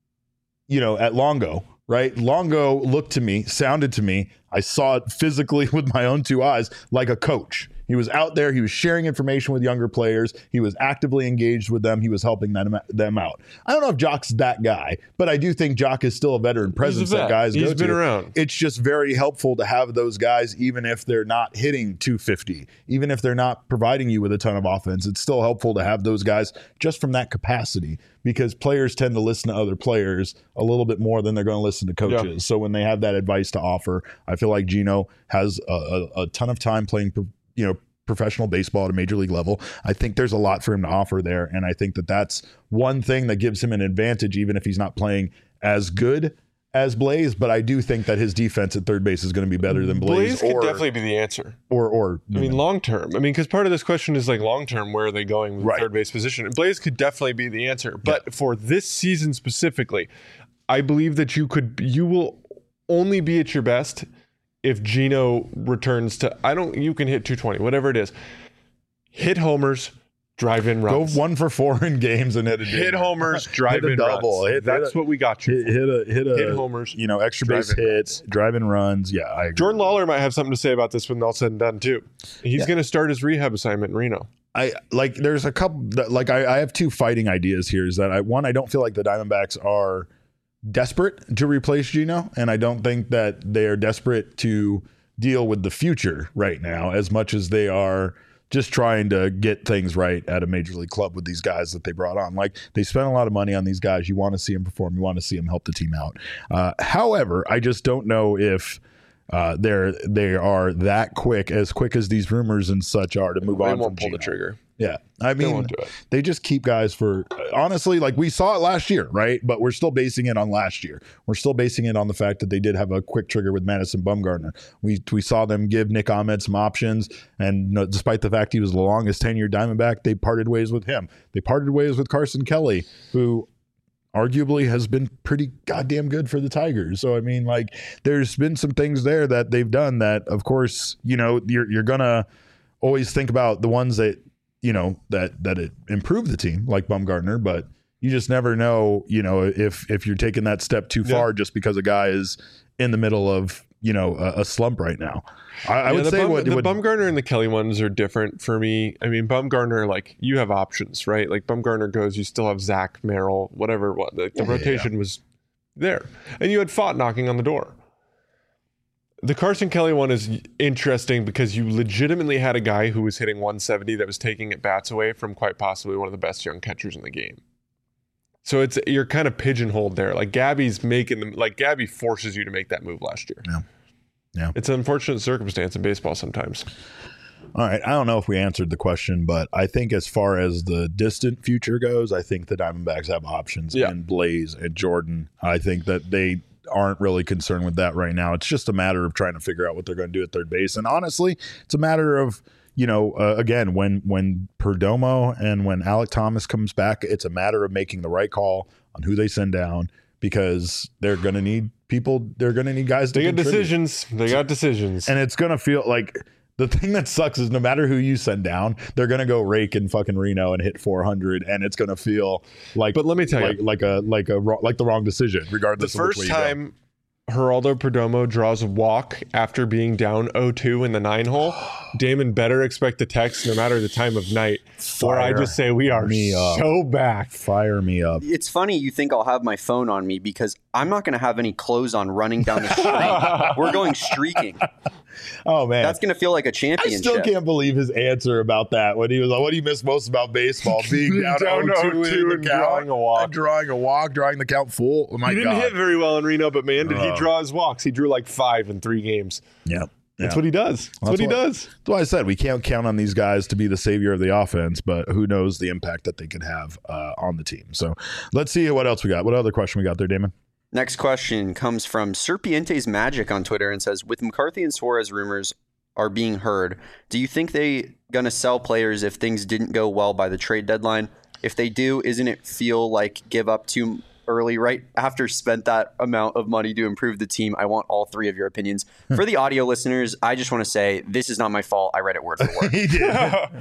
you know, at Longo, right? Longo looked to me, sounded to me. I saw it physically with my own two eyes like a coach. He was out there. He was sharing information with younger players. He was actively engaged with them. He was helping them, them out. I don't know if Jock's that guy, but I do think Jock is still a veteran presence He's a vet. that guys He's go been to. around. It's just very helpful to have those guys, even if they're not hitting two fifty, even if they're not providing you with a ton of offense. It's still helpful to have those guys just from that capacity, because players tend to listen to other players a little bit more than they're going to listen to coaches. Yeah. So when they have that advice to offer, I feel like Gino has a, a, a ton of time playing, you know, professional baseball at a major league level. I think there's a lot for him to offer there, and I think that that's one thing that gives him an advantage, even if he's not playing as good as Blaze. But I do think that his defense at third base is going to be better than Blaze. Blaze could or, definitely be the answer. Or, or I mean, long term. I mean, because part of this question is like long term, where are they going with Right. third base position? And Blaze could definitely be the answer. But yeah. for this season specifically, I believe that you could, you will only be at your best if Gino returns to, I don't, you can hit two twenty, whatever it is. Hit homers, drive in runs. Go one for four in games and hit a hit homers, drive hit a in double. runs. Hit, That's hit a, what we got you. Hit, hit a hit a hit homers, you know, extra drive base in hits, runs. drive in runs. Yeah, I agree. Jordan Lawler might have something to say about this when all said and done too. He's Yeah. going to start his rehab assignment in Reno. I like. There's a couple. That, like I, I have two fighting ideas here. Is that I one I don't feel like the Diamondbacks are desperate to replace Gino, and I don't think that they are desperate to deal with the future right now as much as they are just trying to get things right at a major league club with these guys that they brought on. Like, they spent a lot of money on these guys. You want to see them perform. You want to see them help the team out. Uh, however, I just don't know if uh, they're they are that quick, as quick as these rumors and such are, to move They on. won't from pull the Gino. trigger. Yeah, I They mean, won't do it. They just keep guys for, honestly, like we saw it last year, right? But we're still basing it on last year. We're still basing it on the fact that they did have a quick trigger with Madison Bumgarner. We we saw them give Nick Ahmed some options, and you know, despite the fact he was the longest tenured Diamondback, they parted ways with him. They parted ways with Carson Kelly, who arguably has been pretty goddamn good for the Tigers. So I mean, like, there's been some things there that they've done that, of course, you know, you're you're gonna always think about the ones that, you know, that that it improved the team, like Bumgarner, but you just never know, you know, if if you're taking that step too far yeah. just because a guy is in the middle of, you know, a, a slump right now. I, I yeah, would the say Bum, what the what, Bumgarner and the Kelly ones are different for me. I mean, Bumgarner, like, you have options, right? Like, Bumgarner goes, you still have Zach, Merrill, whatever. What the, the yeah, rotation yeah. was there, and you had Fott knocking on the door. The Carson Kelly one is interesting because you legitimately had a guy who was hitting one seventy that was taking at bats away from quite possibly one of the best young catchers in the game. So it's you're kind of pigeonholed there. Like, Gabby's making them, like Gabby forces you to make that move last year. Yeah. Yeah. It's an unfortunate circumstance in baseball sometimes. All right. I don't know if we answered the question, but I think as far as the distant future goes, I think the Diamondbacks have options yeah. in Blaze and Jordan. I think that they aren't really concerned with that right now. It's just a matter of trying to figure out what they're going to do at third base. And honestly, it's a matter of, you know, uh, again, when when Perdomo and when Alec Thomas comes back, it's a matter of making the right call on who they send down, because they're going to need people. They're going to need guys to They got contribute. decisions. They got decisions. And it's going to feel like, the thing that sucks is no matter who you send down, they're going to go rake in fucking Reno and hit four hundred, and it's going to feel like, but let me tell like, you, like a like a like the wrong decision, regardless. The of which first way you go. time Geraldo Perdomo draws a walk after being down oh two in the nine hole, Damon better expect the text, no matter the time of night, where I just say we are me up. so back. Fire me up. It's funny you think I'll have my phone on me, because I'm not going to have any clothes on running down the street. We're going streaking. Oh man, that's going to feel like a I championship. still can't believe his answer about that when he was like, "What do you miss most about baseball? Being down, Down oh two in the and count, drawing a walk. and drawing a walk, drawing the count full." Oh my he didn't god, hit very well in Reno, but man, did Oh. he draw his walks? He drew like five in three games. yeah. That's yeah. what he does. That's, That's what he what- does. That's why I said we can't count on these guys to be the savior of the offense, but who knows the impact that they could have uh, on the team. So let's see what else we got. What other question we got there, Damon? Next question comes from Serpientes Magic on Twitter and says, with McCarthy and Suarez rumors are being heard, do you think they going to sell players if things didn't go well by the trade deadline? If they do, isn't it feel like give up too early, right after spent that amount of money to improve the team. I want all three of your opinions. For the audio listeners, I just want to say this is not my fault. I read it word for word. He did.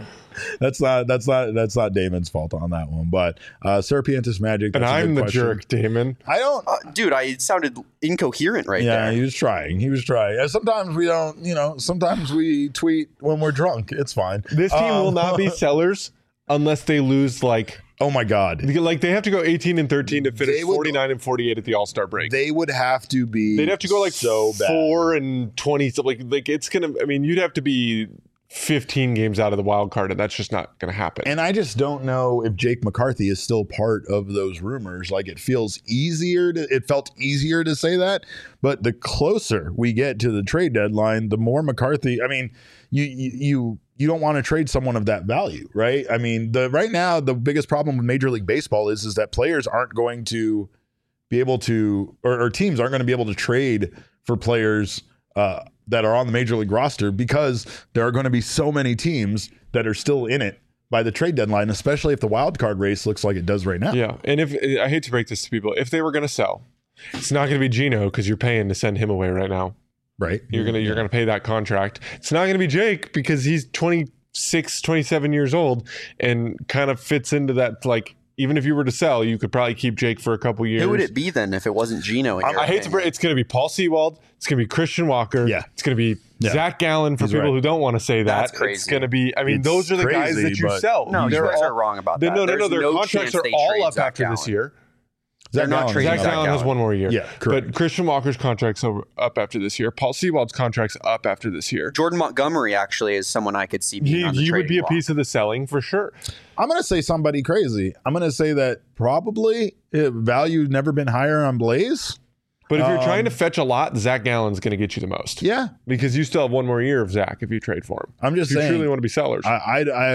That's not that's not that's not Damon's fault on that one. But uh Serpientus Magic. And that's a I'm good the question. jerk, Damon. I don't Uh, dude, I it sounded incoherent right yeah, there. he was trying. He was trying. And sometimes we don't, you know, sometimes we tweet when we're drunk. It's fine. This team Um, will not be sellers unless they lose like Oh my God. like they have to go eighteen and thirteen to finish They would- forty-nine and forty-eight at the All-Star break. They would have to be They'd have to go like so bad. four and twenty. So like like it's gonna. I mean, you'd have to be fifteen games out of the wild card, and that's just not gonna happen. And I just don't know if Jake McCarthy is still part of those rumors. Like it feels easier to, it felt easier to say that, but the closer we get to the trade deadline, the more McCarthy, I mean, you, you, you, you don't want to trade someone of that value, right? I mean, the right now, the biggest problem with Major League Baseball is, is that players aren't going to be able to, or, or teams aren't going to be able to trade for players, uh, that are on the Major League roster because there are going to be so many teams that are still in it by the trade deadline, especially if the wild card race looks like it does right now. yeah, and if I hate to break this to people, if they were gonna sell, it's not gonna be Gino because you're paying to send him away right now. Right. You're gonna you're gonna pay that contract. It's not gonna be Jake because he's twenty-six, twenty-seven years old and kind of fits into that. Like even if you were to sell, you could probably keep Jake for a couple years. Who would it be then if it wasn't Gino? In I, your I hate to opinion? break. It's going to be Paul Sewald. It's going to be Christian Walker. Yeah. It's going to be Yeah. Zach Gallen for He's people right. who don't want to say that. That's It's crazy. going to be. I mean, It's those are the guys crazy, that you but- sell. No, you They're guys all- are wrong about they- that. No, no, no. There's Their no contracts chance are they all trade up Zach after this Gallen. year. They're not Gallen trading Zach is Zach Gallen has Gallen. one more year. Yeah, correct. But Christian Walker's contract's over, up after this year. Paul Sewald's contract's up after this year. Jordan Montgomery actually is someone I could see being He, on the he would trading be a block. piece of the selling for sure. I'm going to say somebody crazy. I'm going to say that probably uh, value never been higher on Blaze. But if you're Um, trying to fetch a lot, Zach Gallen's going to get you the most. Yeah. Because you still have one more year of Zach if you trade for him. I'm just If you saying. truly want to be sellers. I, I, I,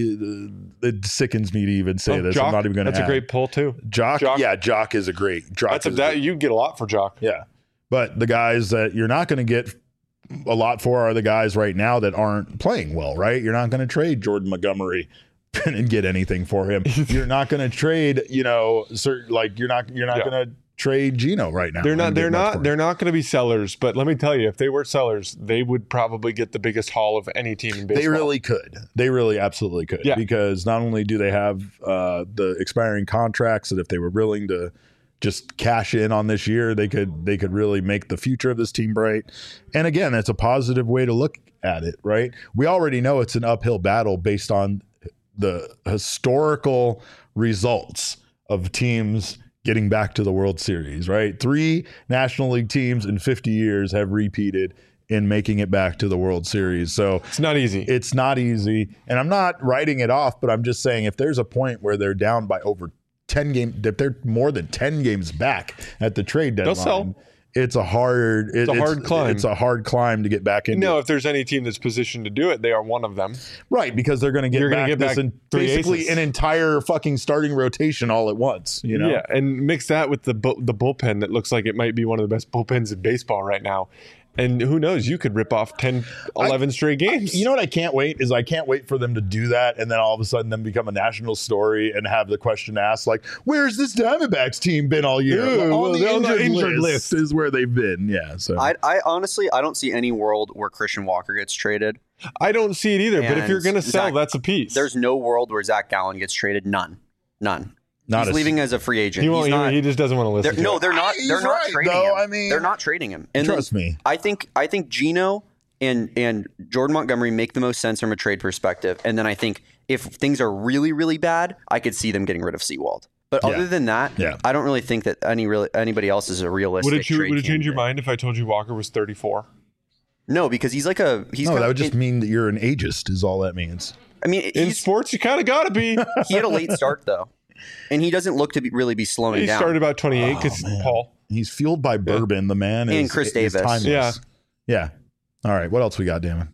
it sickens me to even say Oh, this. Jock, I'm not even going to That's a great pull too. Jock, Jock. yeah, Jock is a great. Jock That's a, is that you get a lot for Jock. Yeah. But the guys that you're not going to get a lot for are the guys right now that aren't playing well, right? You're not going to trade Jordan Montgomery and get anything for him. You're not going to trade, you know, certain, like you're not you're not Yeah. going to trade Gino right now. They're not. and get They're much for not. him. They're not going to be sellers. But let me tell you, if they were sellers, they would probably get the biggest haul of any team in baseball. They really could. They really absolutely could. Yeah. Because not only do they have uh, the expiring contracts that if they were willing to just cash in on this year, they could they could really make the future of this team bright. And again, that's a positive way to look at it, right? We already know it's an uphill battle based on the historical results of teams getting back to the World Series, right? Three National League teams in fifty years have repeated in making it back to the World Series. So It's not easy. it's not easy. And I'm not writing it off, but I'm just saying if there's a point where they're down by over ten games, if they're more than ten games back at the trade They'll deadline, sell. it's a hard it- a hard climb. It's a hard climb to get back into. no, if there's any team that's positioned to do it, they are one of them. Right, because they're going to get You're gonna back get this back in, three basically aces. an entire fucking starting rotation all at once, you know? Yeah, and mix that with the bu- the bullpen that looks like it might be one of the best bullpens in baseball right now. And who knows, you could rip off ten, eleven straight games. You know what I can't wait is I can't wait for them to do that and then all of a sudden them become a national story and have the question asked like, where's this Diamondbacks team been all year? Ew, Well, well, on the they're on the injured, injured list, is where they've been. Yeah. So I, I honestly, I don't see any world where Christian Walker gets traded. I don't see it either. But if And you're going to sell, Zach- that's a piece. There's no world where Zach Gallen gets traded. None. None. Not He's a- leaving as a free agent. he won't. He's He, not, he just doesn't want to they're- listen. to no, it. they're not. He's They're not right, trading though. him. I mean, they're not trading him. And trust then me. I think I think Gino and and Jordan Montgomery make the most sense from a trade perspective. And then I think if things are really really bad, I could see them getting rid of Sewald. But Yeah. other than that, Yeah. I don't really think that any really anybody else is a realistic. Would it, you, trade would it change your candidate. mind if I told you Walker was thirty-four? No, because he's like a he's. no, kind that of- would just mean that you're an ageist is all that means. I mean, In he's, sports, you kind of got to be. he had a late start though, and he doesn't look to be, really be slowing He down. started about twenty-eight because Oh, man. Paul. He's fueled by bourbon. The man is And Chris is Davis. timeless. Yeah. Yeah. All right. What else we got, Damon?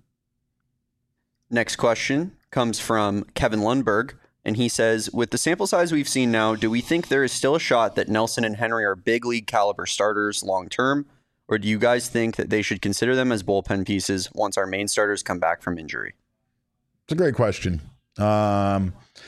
Next question comes from Kevin Lundberg, and he says, with the sample size we've seen now, do we think there is still a shot that Nelson and Henry are big league caliber starters long term? Or do you guys think that they should consider them as bullpen pieces once our main starters come back from injury? It's a great question. Um,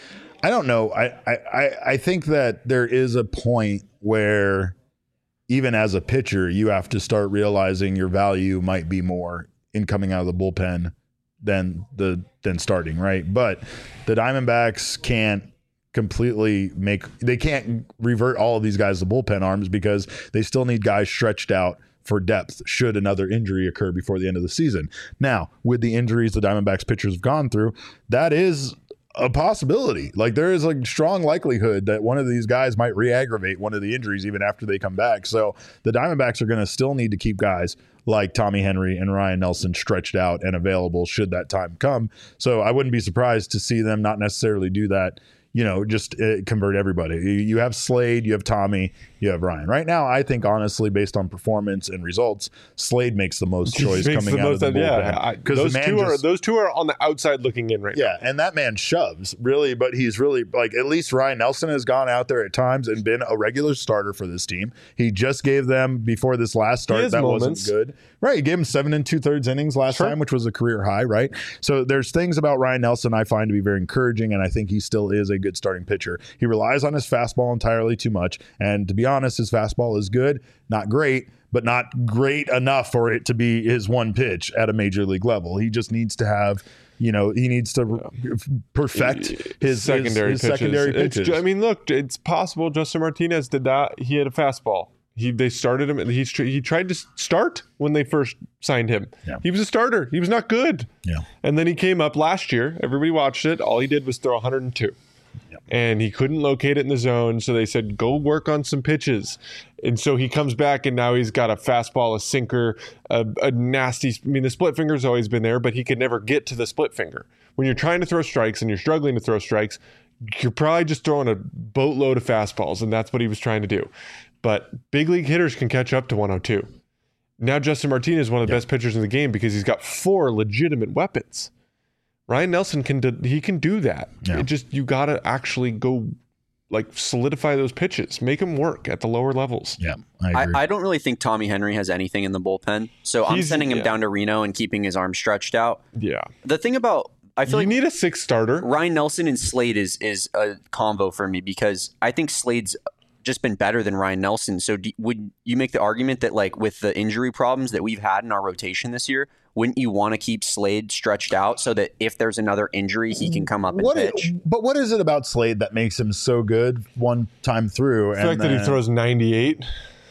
I don't know. I, I, I think that there is a point where even as a pitcher, you have to start realizing your value might be more in coming out of the bullpen than the than starting, right? But the Diamondbacks can't completely make they can't revert all of these guys to bullpen arms because they still need guys stretched out for depth should another injury occur before the end of the season. Now, with the injuries the Diamondbacks pitchers have gone through, that is a possibility. Like there is a strong likelihood that one of these guys might re-aggravate one of the injuries even after they come back. So the Diamondbacks are going to still need to keep guys like Tommy Henry and Ryan Nelson stretched out and available should that time come. So I wouldn't be surprised to see them not necessarily do that, you know, just uh, convert everybody. You, you have Slade, you have Tommy, you have Ryan. Right now, I think, honestly, based on performance and results, Slade makes the most choice coming out of the bullpen. Yeah, those, the two are, those two are on the outside looking in right yeah, now. Yeah, and that man shoves, really, but he's really, like, at least Ryan Nelson has gone out there at times and been a regular starter for this team. He just gave them, before this last start, that moments. wasn't good. Right, he gave him seven and two-thirds innings last sure. time, which was a career high, right? So there's things about Ryan Nelson I find to be very encouraging, and I think he still is a good starting pitcher. He relies on his fastball entirely too much, and to be honest, his fastball is good, not great, but not great enough for it to be his one pitch at a major league level. He just needs to have, you know, he needs to perfect his secondary his, his pitches. secondary pitches. It's, I mean, look, it's possible Justin Martinez did that. He had a fastball. He they started him. He he tried to start when they first signed him. Yeah. He was a starter. He was not good. Yeah. And then he came up last year. Everybody watched it. All he did was throw one hundred two. Yep. And he couldn't locate it in the zone, so they said, go work on some pitches. And so he comes back, and now he's got a fastball, a sinker, a, a nasty – I mean, the split finger's always been there, but he could never get to the split finger. When you're trying to throw strikes and you're struggling to throw strikes, you're probably just throwing a boatload of fastballs, and that's what he was trying to do. But big league hitters can catch up to one oh two. Now Justin Martinez is one of the yep. best pitchers in the game because he's got four legitimate weapons. Ryan Nelson can do, he can do that. Yeah. It just you got to actually go like solidify those pitches, make them work at the lower levels. Yeah, I agree. I, I don't really think Tommy Henry has anything in the bullpen, so I'm He's, sending him yeah. down to Reno and keeping his arm stretched out. Yeah. The thing about I feel you like need a sixth starter. Ryan Nelson and Slade is is a combo for me because I think Slade's just been better than Ryan Nelson. So do, would you make the argument that like with the injury problems that we've had in our rotation this year, wouldn't you want to keep Slade stretched out so that if there's another injury, he can come up and what pitch? Is, but what is it about Slade that makes him so good one time through? The fact and that then, he throws ninety-eight,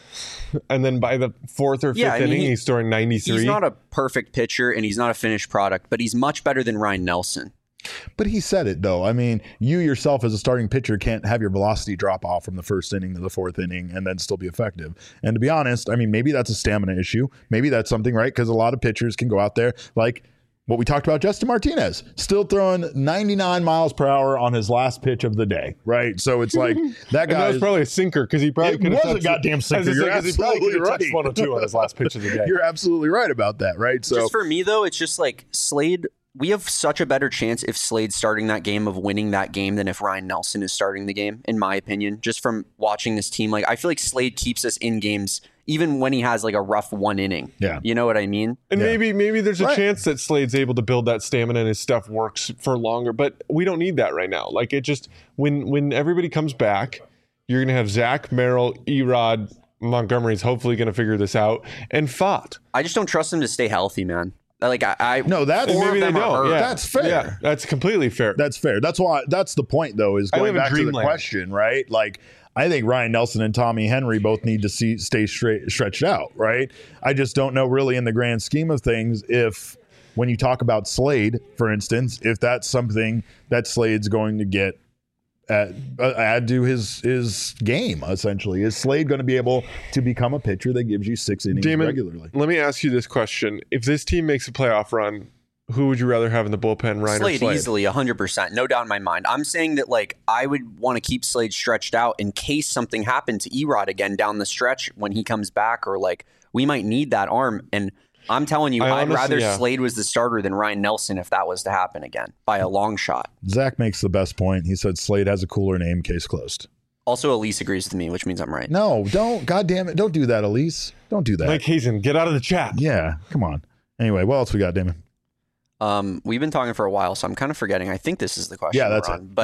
and then by the fourth or fifth yeah, I mean, inning, he, he's throwing ninety-three. He's not a perfect pitcher, and he's not a finished product, but he's much better than Ryan Nelson. But he said it, though. I mean, you yourself as a starting pitcher can't have your velocity drop off from the first inning to the fourth inning and then still be effective. And to be honest, I mean, maybe that's a stamina issue. Maybe that's something, right? Because a lot of pitchers can go out there like what we talked about, Justin Martinez, still throwing ninety-nine miles per hour on his last pitch of the day, right? So it's like that guy. That was probably a sinker because he probably could have was a goddamn sinker. You're absolutely right. one oh two on his last pitch of the day. You're absolutely right about that, right? So just for me, though, it's just like Slade. We have such a better chance if Slade's starting that game of winning that game than if Ryan Nelson is starting the game, in my opinion, just from watching this team. Like, I feel like Slade keeps us in games even when he has like a rough one inning. Yeah. You know what I mean? And yeah. maybe maybe there's a right. chance that Slade's able to build that stamina and his stuff works for longer, but we don't need that right now. Like it just when when everybody comes back, you're gonna have Zach, Merrill, Erod, Montgomery's hopefully gonna figure this out, and Fott. I just don't trust him to stay healthy, man. Like I, I no, that's four maybe of them they are don't. hurt. Yeah. That's fair. Yeah, that's completely fair. That's fair. That's why. That's the point, though. Is I going live in back to the dreamland. question, right? Like, I think Ryan Nelson and Tommy Henry both need to see stay straight, stretched out, right? I just don't know, really, in the grand scheme of things, if when you talk about Slade, for instance, if that's something that Slade's going to get. Add, uh, add to his his game, essentially. Is Slade going to be able to become a pitcher that gives you six innings Damon, regularly? Let me ask you this question. If this team makes a playoff run, who would you rather have in the bullpen, Ryan Slade, or Slade? easily, one hundred percent. No doubt in my mind. I'm saying that, like, I would want to keep Slade stretched out in case something happened to Erod again down the stretch when he comes back, or, like, we might need that arm. And I'm telling you, I I'd honestly, rather yeah. Slade was the starter than Ryan Nelson if that was to happen again by a long shot. Zach makes the best point. He said Slade has a cooler name, case closed. Also, Elise agrees with me, which means I'm right. No, don't. God damn it. Don't do that, Elise. Don't do that. Mike Hazen, get out of the chat. Yeah, come on. Anyway, what else we got, Damon? Um, we've been talking for a while, so I'm kind of forgetting. I think this is the question. Yeah, that's we're it. on. But Yep.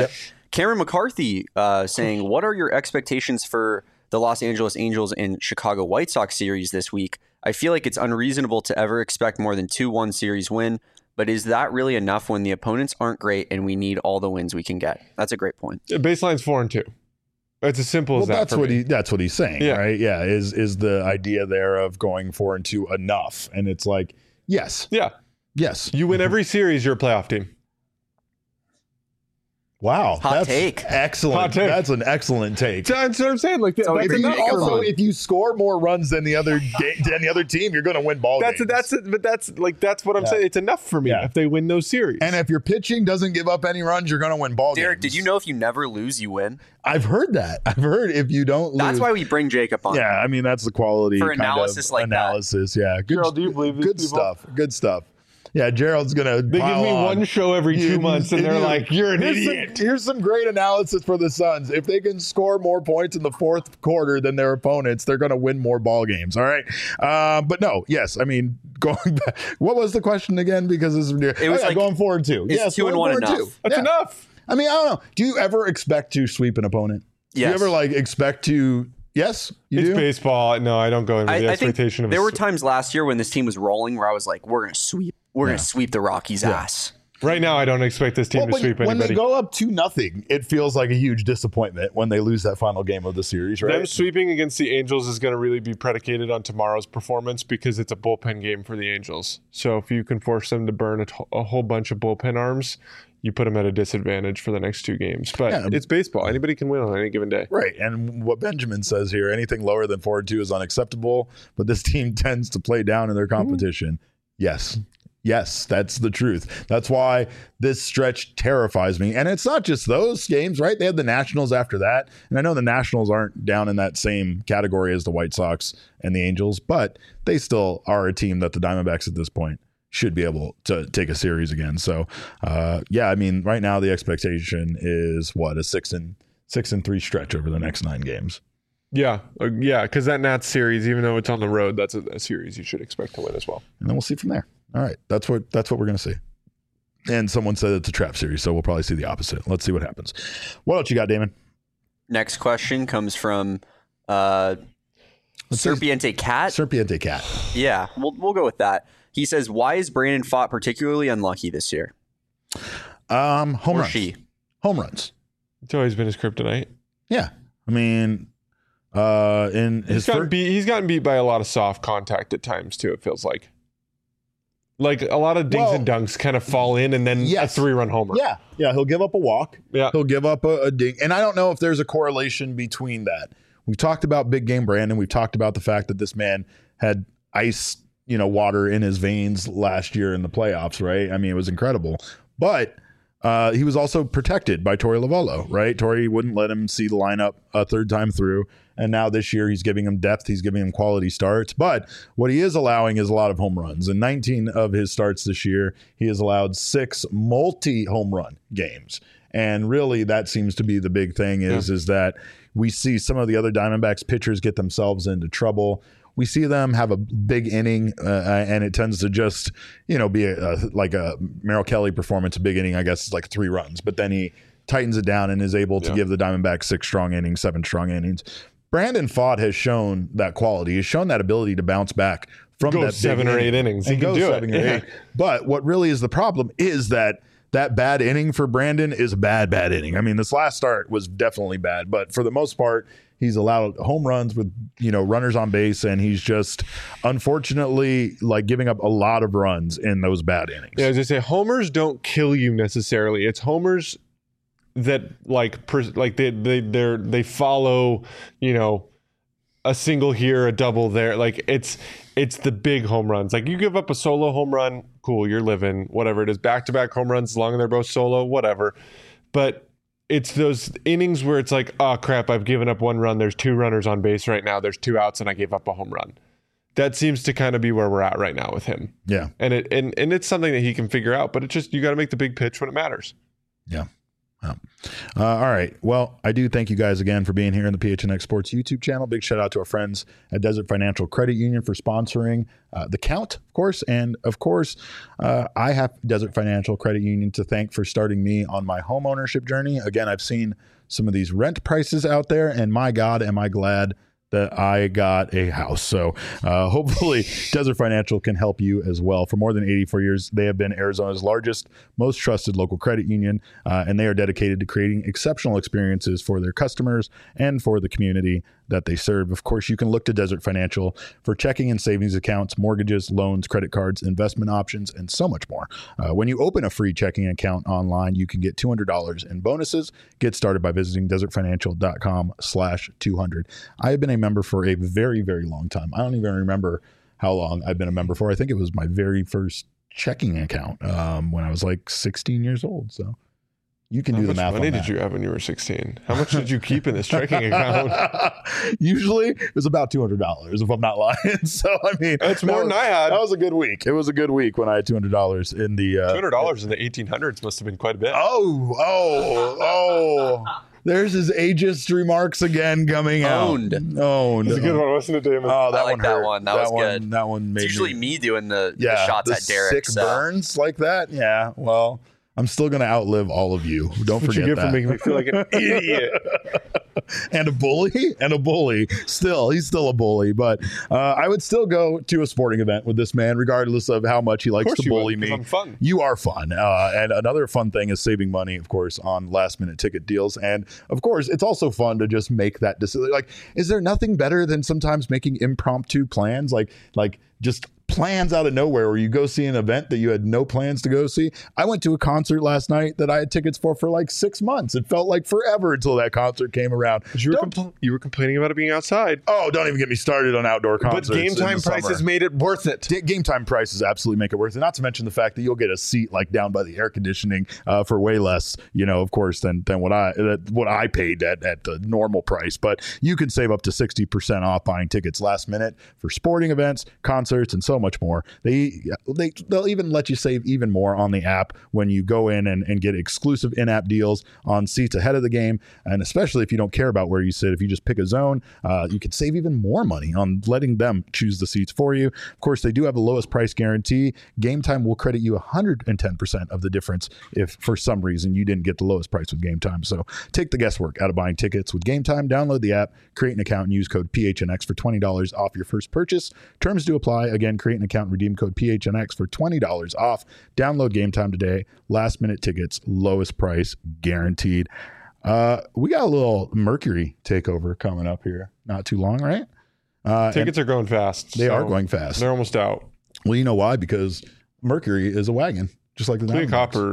Cameron McCarthy uh, saying, what are your expectations for the Los Angeles Angels and Chicago White Sox series this week? I feel like it's unreasonable to ever expect more than two one series win, but is that really enough when the opponents aren't great and we need all the wins we can get? That's a great point. Baseline's four and two. It's as simple well, as that. That's for what me. he. That's what he's saying, Yeah. right? Yeah, is is the idea there of going four and two enough? And it's like, yes, Yeah. yes. You win every series, you're a playoff team. Wow, Hot that's take. excellent. Hot take. That's an excellent take. That's what I'm saying. Like, So that's If you, enough for also, me. if you score more runs than the other ga- than the other team, you're going to win ball That's games. that's it, but that's like that's what I'm Yeah. saying. It's enough for me Yeah. if they win those series. And if your pitching doesn't give up any runs, you're going to win ball Derek, games. did you know if you never lose, you win? I've heard that. I've heard if you don't lose. That's why we bring Jacob on. Yeah, I mean that's the quality For kind analysis of like that. analysis. Yeah, good. Gerald, do you believe these good people? stuff? Good stuff. Yeah, Gerald's gonna. they give pile me on. one show every You- two months, and you- they're like, "You're an here's idiot." Some, here's some great analysis for the Suns. If they can score more points in the fourth quarter than their opponents, they're going to win more ball games. All right, uh, but no, yes, I mean going back. What was the question again? Because this is It was oh, yeah, like, going forward too. is Yes, two and going one forward enough? too. That's Yeah. enough. I mean, I don't know. Do you ever expect to sweep an opponent? Do Yes. you ever like expect to? Yes, you It's do. baseball. No, I don't go into I, the I think expectation of. there a were s- times last year when this team was rolling where I was like, we're going to sweep. We're Yeah. going to sweep the Rockies' ass. Right now, I don't expect this team Well, to when, sweep when anybody. they go up two nothing, it feels like a huge disappointment when they lose that final game of the series, right? Them sweeping against the Angels is going to really be predicated on tomorrow's performance because it's a bullpen game for the Angels. So if you can force them to burn a, t- a whole bunch of bullpen arms, you put them at a disadvantage for the next two games. But Yeah. it's baseball. Anybody can win on any given day. Right. And what Benjamin says here, anything lower than four and two is unacceptable, but this team tends to play down in their competition. Yes. Yes, that's the truth. That's why this stretch terrifies me. And it's not just those games, right? They had the Nationals after that. And I know the Nationals aren't down in that same category as the White Sox and the Angels, but they still are a team that the Diamondbacks at this point should be able to take a series again. So, uh, yeah, I mean, right now the expectation is what, a six and six and three stretch over the next nine games. Yeah. Uh, yeah. Because that Nats series, even though it's on the road, that's a, a series you should expect to win as well. And then we'll see from there. All right, that's what that's what we're going to see. And someone said it's a trap series, so we'll probably see the opposite. Let's see what happens. What else you got, Damon? Next question comes from uh, Let's see. Serpiente Cat. Serpiente Cat. Yeah, we'll we'll go with that. He says, "Why is Brandon Pfaadt particularly unlucky this year?" Um, home Or runs. she? Home runs. It's always been his kryptonite. Yeah, I mean, uh, in He's his gotten, first, beat, he's gotten beat by a lot of soft contact at times, too, it feels like. Like a lot of dings Well, and dunks kind of fall in and then yes. a three-run homer. yeah, yeah, he'll give up a walk. Yeah. He'll give up a, a ding, and I don't know if there's a correlation between that. We've talked about big game Brandon. We've talked about the fact that this man had ice, you know, water in his veins last year in the playoffs, right? I mean, it was incredible. But uh, he was also protected by Torey Lovullo, right? Torey wouldn't let him see the lineup a third time through. And now this year he's giving him depth. He's giving him quality starts. But what he is allowing is a lot of home runs. In nineteen of his starts this year, he has allowed six multi-home run games. And really that seems to be the big thing is, yeah. is that we see some of the other Diamondbacks pitchers get themselves into trouble. We see them have a big inning, uh, and it tends to just, you know, be a, a, like a Merrill Kelly performance. A big inning, I guess, is like three runs. But then he tightens it down and is able to yeah. give the Diamondbacks six strong innings, seven strong innings. Brandon Pfaadt has shown that quality. He's shown that ability to bounce back from go that seven big or inning eight innings. and he go can do seven it. or Yeah. eight. But what really is the problem is that that bad inning for Brandon is a bad, bad inning. I mean, this last start was definitely bad, but for the most part, he's allowed home runs with, you know, runners on base, and he's just unfortunately like giving up a lot of runs in those bad innings. Yeah, as I say, homers don't kill you necessarily. It's homers that like pers- like they they they they follow, you know, a single here, a double there. Like it's it's the big home runs. Like you give up a solo home run, cool, you're living. Whatever it is, back to back home runs, as long as they're both solo, whatever. But it's those innings where it's like, oh crap, I've given up one run. There's two runners on base right now. There's two outs, and I gave up a home run. That seems to kind of be where we're at right now with him. Yeah, and it and and it's something that he can figure out. But it's just you got to make the big pitch when it matters. Yeah. Wow. Uh, all right. Well, I do thank you guys again for being here in the P H N X Sports YouTube channel. Big shout out to our friends at Desert Financial Credit Union for sponsoring uh, the count, of course. And of course, uh, I have Desert Financial Credit Union to thank for starting me on my home ownership journey. Again, I've seen some of these rent prices out there, and my God, am I glad that I got a house. So uh, hopefully Desert Financial can help you as well. For more than eighty-four years, they have been Arizona's largest, most trusted local credit union, uh, and they are dedicated to creating exceptional experiences for their customers and for the community that they serve. Of course, you can look to Desert Financial for checking and savings accounts, mortgages, loans, credit cards, investment options, and so much more. Uh, when you open a free checking account online, you can get two hundred dollars in bonuses. Get started by visiting desertfinancial.com slash 200. I have been a member for a very, very long time. I don't even remember how long I've been a member for. I think it was my very first checking account um, when I was like sixteen years old. So you can How do the math on that. How much money did you have when you were sixteen? How much did you keep in this checking account? Usually it was about two hundred dollars, if I'm not lying. So, I mean, that's more that was, than I had. That was a good week. It was a good week when I had two hundred dollars in the... Uh, two hundred dollars in the eighteen hundreds must have been quite a bit. Oh, oh, oh. There's his ageist remarks again coming Owned. out. Owned. That's a good one, wasn't it, Damon? Oh, that I like one that hurt. one. That, that was one, good. That one made It's usually me, me doing the, yeah, the shots the at Derek. Sick So. burns like that. Yeah. Well, I'm still going to outlive all of you. Don't That's what forget you get that. for making me feel like an idiot. and a bully and a bully still he's still a bully, but uh, I would still go to a sporting event with this man regardless of how much he likes to bully would, me. I'm fun. You are fun, uh, and another fun thing is saving money, of course, on last minute ticket deals. And of course it's also fun to just make that decision. Like, is there nothing better than sometimes making impromptu plans, like like just plans out of nowhere where you go see an event that you had no plans to go see? I went to a concert last night that I had tickets for for like six months. It felt like forever until that concert came around. But you were, Don't- compl- you were complaining about it being outside. Oh, don't even get me started on outdoor concerts. But game in time the summer. prices made it worth it. D- Game time prices absolutely make it worth it. Not to mention the fact that you'll get a seat like down by the air conditioning uh, for way less, you know, of course, than than what I uh, what I paid at, at the normal price. But you can save up to sixty percent off buying tickets last minute for sporting events, concerts, and so much more. They they they'll even let you save even more on the app when you go in and, and get exclusive in-app deals on seats ahead of the game. And especially if you don't care about where you sit, if you just pick a zone, uh, you can save even more money on letting them choose the seats for you. Of course, they do have the lowest price guarantee. Game Time will credit you one hundred ten percent of the difference if for some reason you didn't get the lowest price with Game Time. So take the guesswork out of buying tickets with Game Time. Download the app, create an account, and use code P H N X for twenty dollars off your first purchase. Terms do apply. Again, create an account and redeem code P H N X for twenty dollars off. Download Game Time today. Last minute tickets, lowest price guaranteed. Uh, we got a little Mercury takeover coming up here. Not too long, right? Uh, Tickets are going fast. They so are going fast. They're almost out. Well, you know why? Because Mercury is a wagon, just like the Clean Diamondbacks. Copper.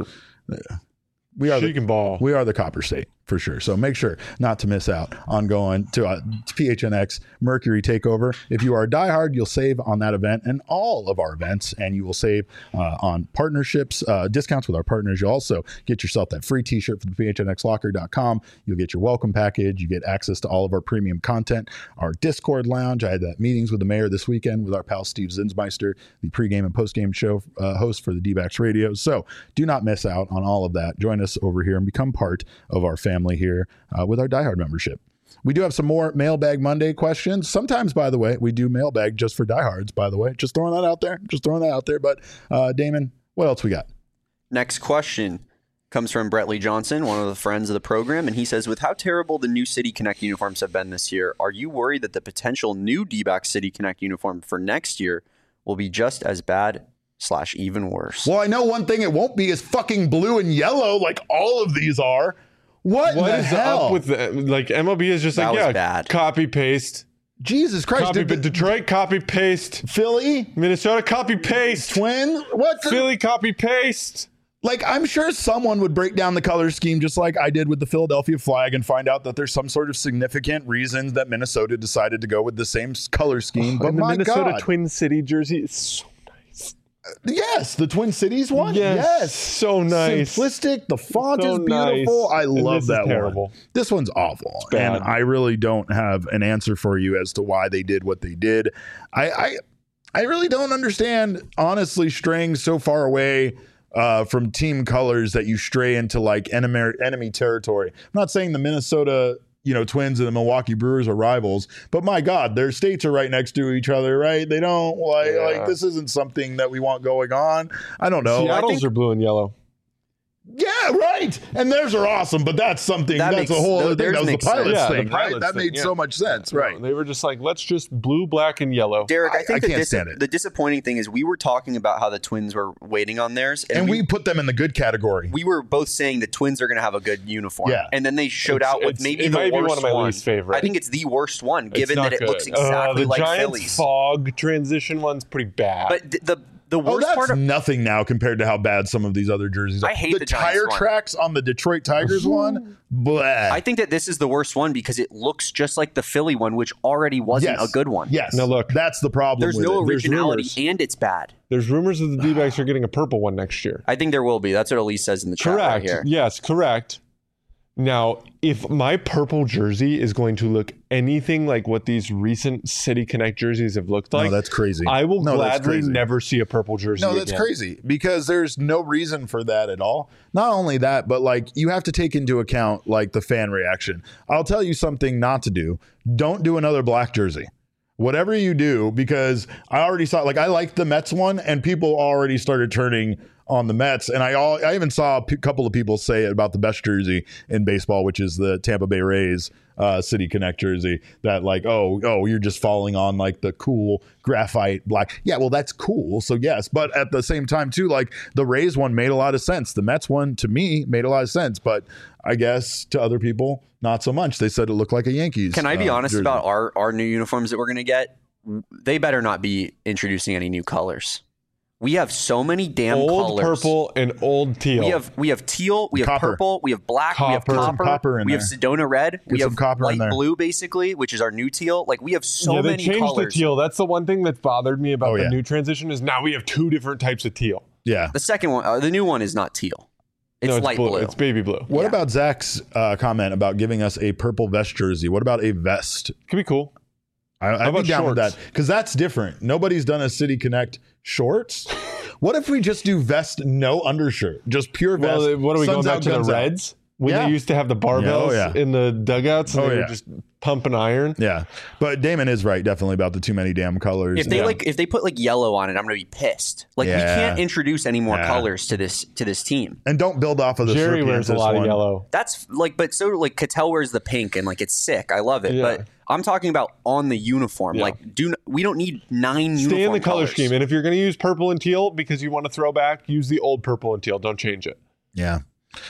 We are She the, can ball. we are the Copper State for sure. So make sure not to miss out on going to, uh, to P H N X Mercury Takeover. If you are a diehard, you'll save on that event and all of our events, and you will save uh, on partnerships, uh, discounts with our partners. You'll also get yourself that free t-shirt from P H N X locker dot com. You'll get your welcome package. You get access to all of our premium content, our Discord lounge. I had that meetings with the mayor this weekend with our pal Steve Zinsmeister, the pregame and postgame show uh, host for the D-backs radio. So do not miss out on all of that. Join us over here and become part of our family here uh, with our diehard membership. We do have some more Mailbag Monday questions. Sometimes, by the way, we do mailbag just for diehards, by the way. Just throwing that out there. Just throwing that out there. But uh, Damon, what else we got? Next question comes from Brett Lee Johnson, one of the friends of the program, and he says, with how terrible the new City Connect uniforms have been this year, are you worried that the potential new D-backs City Connect uniform for next year will be just as bad slash even worse? Well, I know one thing it won't be is fucking blue and yellow like all of these are. What, What the is hell? up with the, like M L B is just That like, was yeah, bad. copy paste. Jesus Christ. Copy, Did the- Detroit, copy paste. Philly? Minnesota, copy paste. Twin? What? the- Philly, copy paste. Like, I'm sure someone would break down the color scheme just like I did with the Philadelphia flag and find out that there's some sort of significant reason that Minnesota decided to go with the same s- color scheme. But and the my Minnesota God. Twin City jersey is so nice. Yes, the Twin Cities one. Yes, Yes, so nice. Simplistic. The font So is beautiful. nice. I And love this is that terrible. one. This one's awful, bad. and I really don't have an answer for you as to why they did what they did. I, I, I really don't understand, honestly, straying so far away uh, from team colors that you stray into like enemy enemy territory. I'm not saying the Minnesota, you know, Twins and the Milwaukee Brewers are rivals, but my God, their states are right next to each other, right? They don't like Yeah. like this isn't something that we want going on. I don't know. Seattle's I think, are blue and yellow. yeah, right. And theirs are awesome, but that's something. That that's makes- a whole other thing. theirs That was the makes Pilots sense. Yeah, the thing, right? Pilots That thing, made yeah. so much sense, right? They were just like, let's just blue, black, and yellow. Derek, I I- think I the, can't dis- stand it. the disappointing thing is we were talking about how the Twins were waiting on theirs, and, And we, we put them in the good category. we were both saying the Twins are going to have a good uniform. Yeah. And then they showed It's- out with it's- maybe it the might be worst one of my least favorite. I think it's the worst one, It's given not that it good. looks Uh, exactly the like Giants Phillies. fog transition one's pretty bad. But th- the the Oh, worst that's part of nothing now compared to how bad some of these other jerseys are. I hate the, the Giants tire one. tracks on the Detroit Tigers one. Bleh. I think that this is the worst one because it looks just like the Philly one, which already wasn't Yes. a good one. Yes. Now look, that's the problem. There's with no it. There's originality rumors. and it's bad. There's rumors that the D-backs are getting a purple one next year. I think there will be. That's what Elise says in the chat right Correct. here. Yes, correct. Now, if my purple jersey is going to look anything like what these recent City Connect jerseys have looked like, no, that's crazy. I will No, that's gladly crazy. never see a purple jersey No, that's again. crazy because there's no reason for that at all. Not only that, but like you have to take into account like the fan reaction. I'll tell you something not to do. Don't do another black jersey. Whatever you do, because I already saw like I liked the Mets one and people already started turning on the Mets. And I all I even saw a p- couple of people say it about the best jersey in baseball, which is the Tampa Bay Rays uh, City Connect jersey. That like, oh, oh, you're just falling on like the cool graphite black. Yeah, well, that's cool. So yes, but at the same time too, like the Rays one made a lot of sense. The Mets one to me made a lot of sense, but I guess to other people not so much. They said it looked like a Yankees. Can I be uh, honest jersey. about our, our new uniforms that we're going to get? They better not be introducing any new colors. We have so many damn Old colors. purple and old teal. We have we have teal, we have Copper. purple, we have black, we have Copper. Get some copper, copper in we have there. Sedona red, we Get some have copper in light there. blue basically, which is our new teal. Like we have so yeah, they many changed colors. the teal. That's the one thing that's bothered me about Oh, the yeah. new transition is now we have two different types of teal. Yeah. The second one, uh, the new one is not teal. It's, no, it's light blue. It's baby blue. What Yeah. about Zach's uh, comment about giving us a purple vest jersey? What about a vest? Could be cool. I, I'd be about down with shorts? that because that's different. Nobody's done a City Connect shorts. What if we just do vest, no undershirt, just pure vest? Well, what are we Suns going back out, to the guns out? Reds? When Yeah. they used to have the barbells Yeah, oh, yeah. in the dugouts and Oh, they yeah. were just pumping iron. Yeah, but Damon is right, definitely about the too many damn colors. If they Yeah. like, if they put like yellow on it, I'm gonna be pissed. Like we Yeah. can't introduce any more Yeah. colors to this to this team. and don't build off of the Jerry Serpiantis wears a lot one. of yellow. That's like, but so like Cattell wears the pink and like it's sick. I love it. Yeah. But I'm talking about on the uniform. Yeah. Like, do n- we don't need nine Stay in uniform the color colors. scheme. And if you're going to use purple and teal because you want to throw back, use the old purple and teal. Don't change it. Yeah.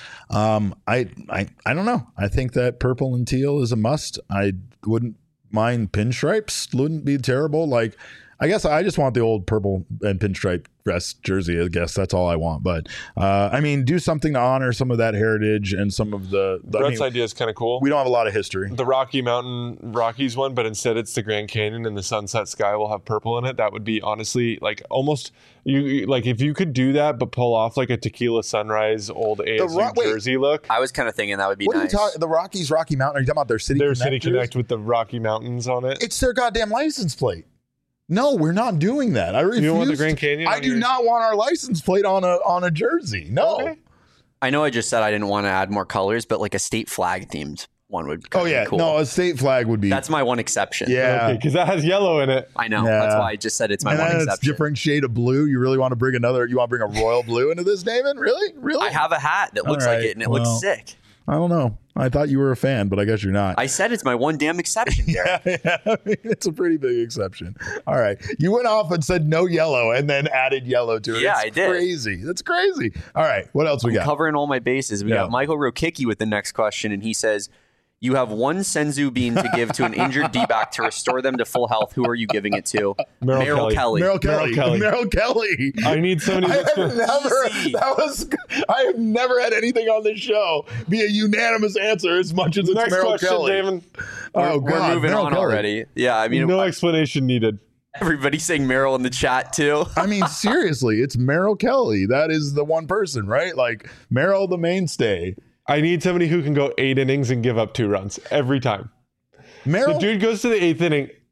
Um, I, I, I don't know. I think that purple and teal is a must. I wouldn't mind pinstripes. Wouldn't be terrible. Like, I guess I just want the old purple and pinstripe vest jersey. I guess that's all I want. But uh, I mean, do something to honor some of that heritage and some of the. the I Brett's mean, idea is kind of cool. we don't have a lot of history. The Rocky Mountain Rockies one, but instead it's the Grand Canyon and the sunset sky will have purple in it. That would be honestly like almost you like if you could do that, but pull off like a tequila sunrise old A S U Ro- wait. jersey look. I was kind of thinking that would be What are you nice. talking? The Rockies, Rocky Mountain. Are you talking about their city? Their City connectors? Connect with the Rocky Mountains on it. It's their goddamn license plate. No, we're not doing that. I refuse. You don't want the to- Grand Canyon I on do your- not want our license plate on a on a jersey. No. Okay. I know I just said I didn't want to add more colors, but like a state flag themed one would. Oh kinda yeah, be cool. no, a state flag would be. That's my one exception. yeah. Because that has yellow in it. I know. Yeah. That's why I just said it's my and one then it's exception. different shade of blue. You really want to bring another? You want to bring a royal blue into this, Damon? Really? Really? I have a hat that looks All like right, it, and it well. looks sick. I don't know. I thought you were a fan, but I guess you're not. I said it's my one damn exception, Derek. yeah, I mean, it's a pretty big exception. All right. You went off and said no yellow and then added yellow to it. Yeah, It's I did. Crazy. That's crazy. All right. What else we got? Covering all my bases. We Yeah. got Michael Rokicki with the next question, and he says, you have one Senzu bean to give to an injured D-back to restore them to full health. Who are you giving it to? Merrill Kelly. Merrill Kelly. Kelly. Merrill Kelly. I need somebody I that's have gonna- never. Easy. That was. I have never had anything on this show be a unanimous answer as much as it's Next Merrill question, Kelly. David. Oh We're God, moving Merrill on Kelly. already. Yeah, I mean, No I- explanation needed. everybody's saying Merrill in the chat too. I mean, seriously, it's Merrill Kelly. That is the one person, right? Like Merrill, the mainstay. I need somebody who can go eight innings and give up two runs every time. The Merrill. dude goes to the eighth inning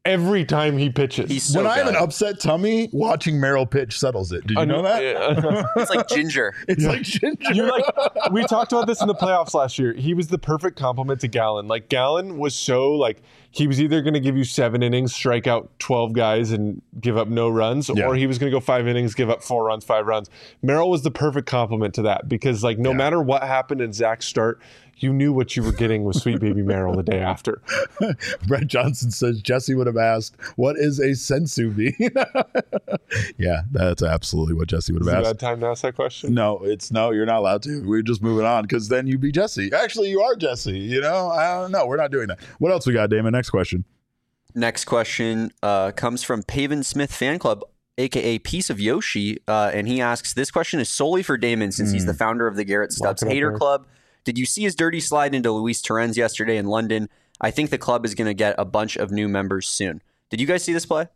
every time he pitches. He's so when I have good. an upset tummy, watching Merrill pitch settles it. Did you I know that? Yeah. It's like ginger. It's like ginger. You like we talked about this in the playoffs last year. He was the perfect complement to Gallen. Like Gallen was so like he was either going to give you seven innings, strike out twelve guys, and give up no runs, Yeah. or he was going to go five innings, give up four runs, five runs. Merrill was the perfect complement to that because like no Yeah. matter what happened in Zach's start, you knew what you were getting with Sweet Baby Merrill the day after. Brett Johnson says Jesse would have asked, "What is a sensu bean?" Yeah, that's absolutely what Jesse would Is it have a asked. bad time to ask that question? No, it's no, you're not allowed to. We're just moving on because then you'd be Jesse. Actually, you are Jesse. You know, I don't know. We're not doing that. What else we got, Damon? Next question. Next question uh, comes from Paven Smith Fan Club, aka Piece of Yoshi, uh, and he asks, "This question is solely for Damon since he's the founder of the Garrett Stubbs Lock it up Hater there. Club. Did you see his dirty slide into Luis Torrens yesterday in London? I think the club is going to get a bunch of new members soon. Did you guys see this play?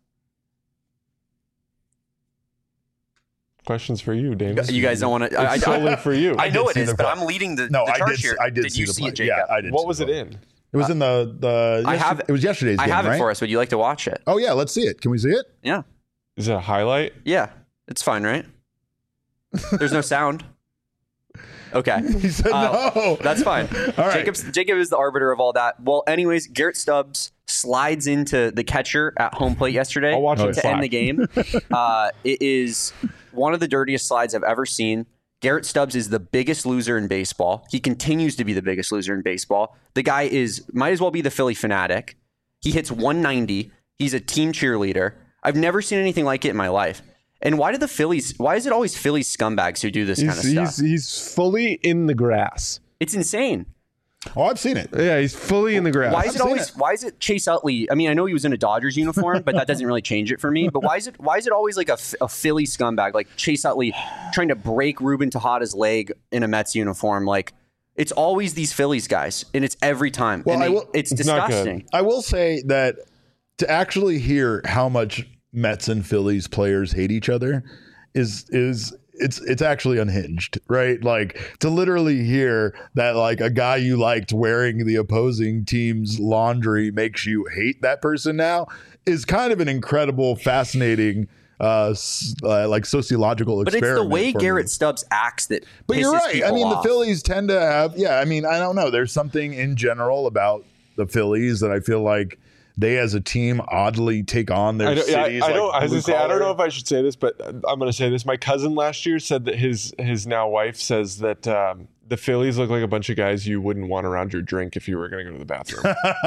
Questions for you, Davis. You guys don't want to. I, It's I, solely for you. I know did it see is, the but play. I'm leading the, No, the I charge did. here. I did, did see you the see play. it, Jacob? Yeah, I did. What see was the it play. in? It was in the the. I yesterday- have- It was yesterday's I game, have it right? for us. Would you like to watch it? Oh yeah, let's see it. Can we see it? Yeah. Is it a highlight? Yeah. It's fine, right? There's no sound. Okay. He said Uh, no. That's fine. All right. Jacob's, Jacob is the arbiter of all that. Well, anyways, Garrett Stubbs slides into the catcher at home plate yesterday I'll watch it to live. end the game. Uh, it is one of the dirtiest slides I've ever seen. Garrett Stubbs is the biggest loser in baseball. He continues to be the biggest loser in baseball. The guy is might as well be the Philly fanatic. He hits one ninety. He's a team cheerleader. I've never seen anything like it in my life. And why do the Phillies, why is it always Philly scumbags who do this kind of He's, stuff? he's, he's fully in the grass. It's insane. Oh, I've seen it. Yeah, he's fully in the grass. Why is I've it seen always? it. Why is it Chase Utley? I mean, I know he was in a Dodgers uniform, but that doesn't really change it for me. But why is it? Why is it always like a, a Philly scumbag, like Chase Utley, trying to break Ruben Tejada's leg in a Mets uniform? Like, it's always these Phillies guys, and it's every time. Well, and I they- will- it's It's not good. disgusting. I will say that to actually hear how much Mets and Phillies players hate each other is is it's it's actually unhinged, right? Like to literally hear that like a guy you liked wearing the opposing team's laundry makes you hate that person now is kind of an incredible, fascinating uh, s- uh like sociological But it's experiment. the way for me. Garrett Stubbs acts that. But you're pisses right. I people mean, off. the Phillies tend to have, yeah, I mean, I don't know. There's something in general about the Phillies that I feel like they as a team oddly take on their I don't, yeah, cities. I, I like don't, I was blue gonna say, I don't know collar. if I should say this, but I'm going to say this. My cousin last year said that his his now wife says that um, the Phillies look like a bunch of guys you wouldn't want around your drink if you were going to go to the bathroom.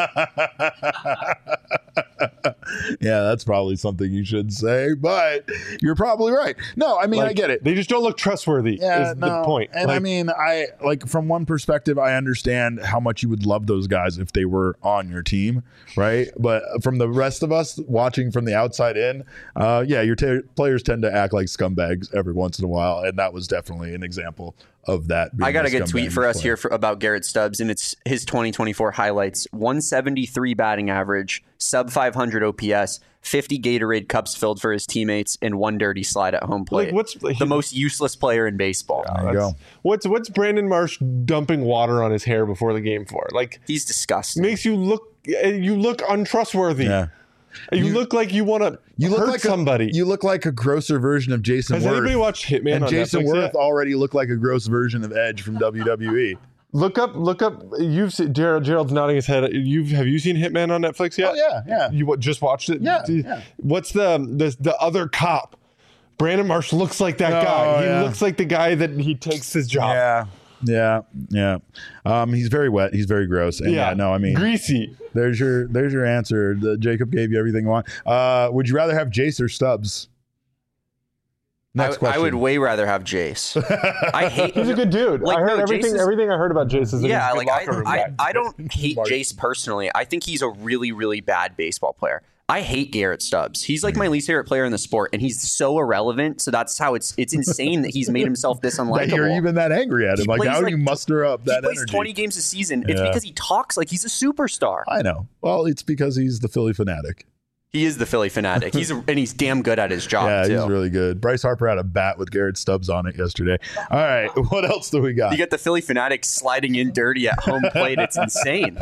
Yeah, that's probably something you should say, but you're probably right. No, I mean, I Like, get it. They just don't look trustworthy. Yeah, is no. the point. And I Like, mean, I like from one perspective, I understand how much you would love those guys if they were on your team, right? But from the rest of us watching from the outside in, uh, yeah, your t- players tend to act like scumbags every once in a while, and that was definitely an example of that. being I got a good scumbag tweet for us play. here for, about Garrett Stubbs, and it's his twenty twenty-four highlights: one seventy-three batting average, sub five hundred O P S, fifty Gatorade cups filled for his teammates, and one dirty slide at home plate. like what's like, the most useless player in baseball? There you that's- go. What's what's Brandon Marsh dumping water on his hair before the game for? Like He's disgusting. makes you look you look untrustworthy. Yeah. You, look like you want to You look hurt like somebody. A, you look like a grosser version of Jason Has Worth. anybody watched Hitman and on Jason Netflix Worth yet? already looked like a gross version of Edge from W W E. Look up, look up. You've seen Gerald. Gerald's nodding his head. You've have you seen Hitman on Netflix yet? Oh yeah, yeah. You what, just watched it? Yeah, Do- yeah. What's the the the other cop? Brandon Marsh looks like that Oh, guy. He yeah. looks like the guy that he takes his job. Yeah, yeah, yeah. Um, he's very wet. He's very gross. And yeah, no, I mean, greasy. there's your there's your answer. The, Jacob gave you everything you want. Uh, would you rather have Jace or Stubbs? Next I, question. I would way rather have Jace. I hate. He's a good dude. Like, I heard no, everything. Jace is- everything I heard about Jace is that Yeah, he's a like good I, locker room I, guy. I don't hate Smart. Jace personally. I think he's a really, really bad baseball player. I hate Garrett Stubbs. He's like my least favorite player in the sport, and he's so irrelevant. So that's how it's it's insane that he's made himself this that unlikable. you're even that angry at him. He Like, plays how do like you muster up he that plays energy? twenty games a season. It's Yeah. because he talks like he's a superstar. I know. Well, it's because he's the Philly fanatic. He is the Philly fanatic. He's a, and he's damn good at his job Yeah, too. he's really good. Bryce Harper had a bat with Garrett Stubbs on it yesterday. All right, what else do we got? You get the Philly fanatic sliding in dirty at home plate. It's insane.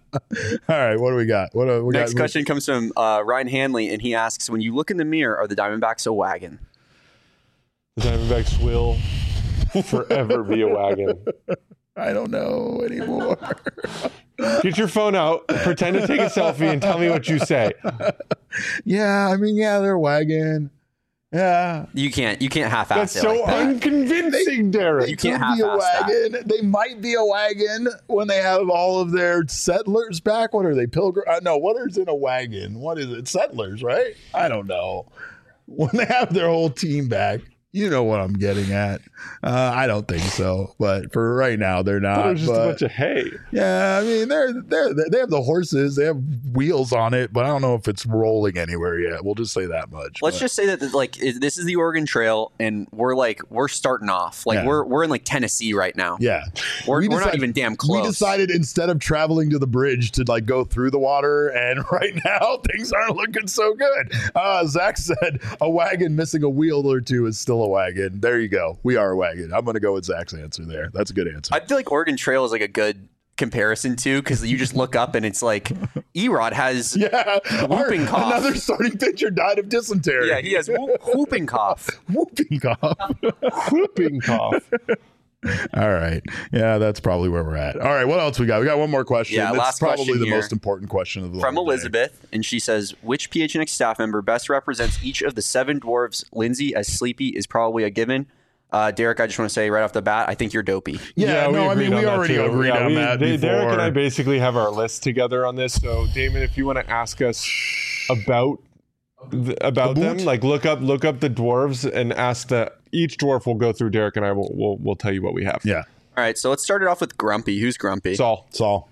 right, what do we got? What do we Next got? question comes from uh, Ryan Hanley, and he asks, when you look in the mirror, are the Diamondbacks a wagon? The Diamondbacks will forever be a wagon. I don't know anymore. Get your phone out, pretend to take a selfie, and tell me what you say. Yeah, I mean, yeah, they're a wagon. Yeah. You can't. You can't half-ass That's it so like that. unconvincing, Derek. They You can't could be a half-ass that. wagon. They might be a wagon when they have all of their settlers back. What are they? Pilgrim? Uh, no, what is in a wagon? What is it? Settlers, right? I don't know. When they have their whole team back. You know what I'm getting at. Uh, I don't think so, but for right now, they're not. It was just but, a bunch of hay. yeah, I mean, they're they're they have the horses, they have wheels on it, but I don't know if it's rolling anywhere yet. We'll just say that much. Let's but. just say that like it- this is the Oregon Trail, and we're like we're starting off. Like Yeah. we're we're in like Tennessee right now. Yeah, We're, We we're not decided- even damn close. We decided instead of traveling to the bridge to like go through the water, and right now things aren't looking so good. Uh, Zach said a wagon missing a wheel or two is still a wagon. There you go. We are a wagon. I'm going to go with Zach's answer there. That's a good answer. I feel like Oregon Trail is like a good comparison too, because you just look up and it's like Erod has yeah, whooping Our- cough. Another starting pitcher died of dysentery. yeah he has whoop, whooping cough. whooping cough. Whooping cough. All right. Yeah, that's probably where we're at. All right. What else we got? We got one more question. Yeah, It's last probably question the here. most important question of the From whole day. Elizabeth, and she says, which P H N X staff member best represents each of the seven dwarves? Lindsay as Sleepy is probably a given. Uh, Derek, I just want to say right off the bat, I think you're dopey. Yeah, no, I agreed mean, on we that already too. agreed Yeah, on we- that they- before. Derek and I basically have our list together on this. So, Damon, if you want to ask us about th- about About? them, like look up look up the dwarves and ask the each dwarf. We'll go through. Derek and I will will will tell you what we have. Yeah. All right, so let's start it off with Grumpy. Who's Grumpy? Saul. Saul.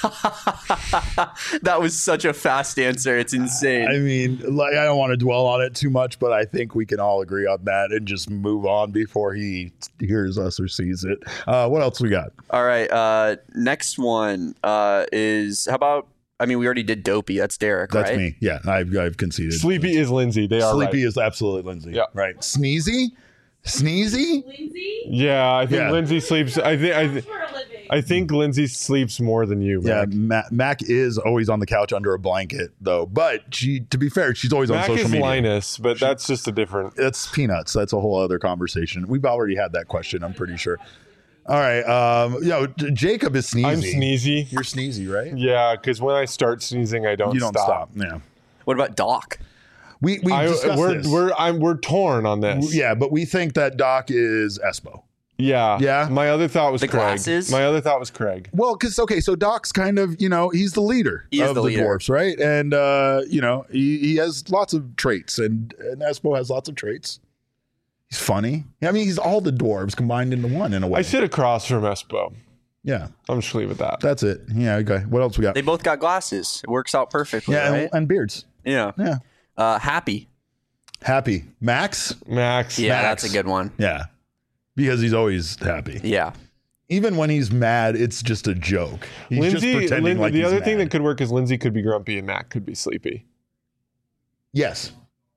That was such a fast answer. It's insane. I mean, like, I don't want to dwell on it too much, but I think we can all agree on that and just move on before he hears us or sees it. Uh, what else we got? All right, uh, next one uh, is, how about, I mean, we already did Dopey. That's Derek, That's right? me. Yeah, I've, I've conceded. Sleepy is Lindsay. They are Sleepy right. is absolutely Lindsay. Yeah. Right. Sneezy? Sneezy? Lindsay? Yeah, I think Yeah. Lindsay sleeps. I think I, th- For a living. I think Lindsay sleeps more than you. Yeah, Mac. Mac, Mac is always on the couch under a blanket, though. But she, to be fair, she's always Mac on social is media. Linus, but that's just a different. It's peanuts. That's a whole other conversation. We've already had that question, I'm pretty sure. All right. Um, you know, J- Jacob is sneezy. I'm sneezy. You're sneezy, right? Yeah, because when I start sneezing, I don't. You don't stop. Yeah. What about Doc? We we I, discussed we're this. we're I'm we're torn on this. yeah, but we think that Doc is Espo. Yeah. Yeah. My other thought was The Craig. glasses? My other thought was Craig. Well, because okay, so Doc's kind of, you know, he's the leader He is of the the, leader. dwarfs, right? And uh, you know, he, he has lots of traits, and and Espo has lots of traits. He's funny. I mean, he's all the dwarves combined into one in a way. I sit across from Espo. Yeah, I'm just leave it at that. that's it. Yeah. Okay. What else we got? They both got glasses. It works out perfectly, yeah, right? and, and beards. yeah. Yeah. Uh, Happy. Happy Max. Max. Yeah, Max. that's a good one. Yeah, because he's always happy. Yeah. Even when he's mad, it's just a joke. He's Lindsay. just pretending Lin- like the he's other mad. thing that could work is Lindsay could be grumpy and Mac could be sleepy. Yes.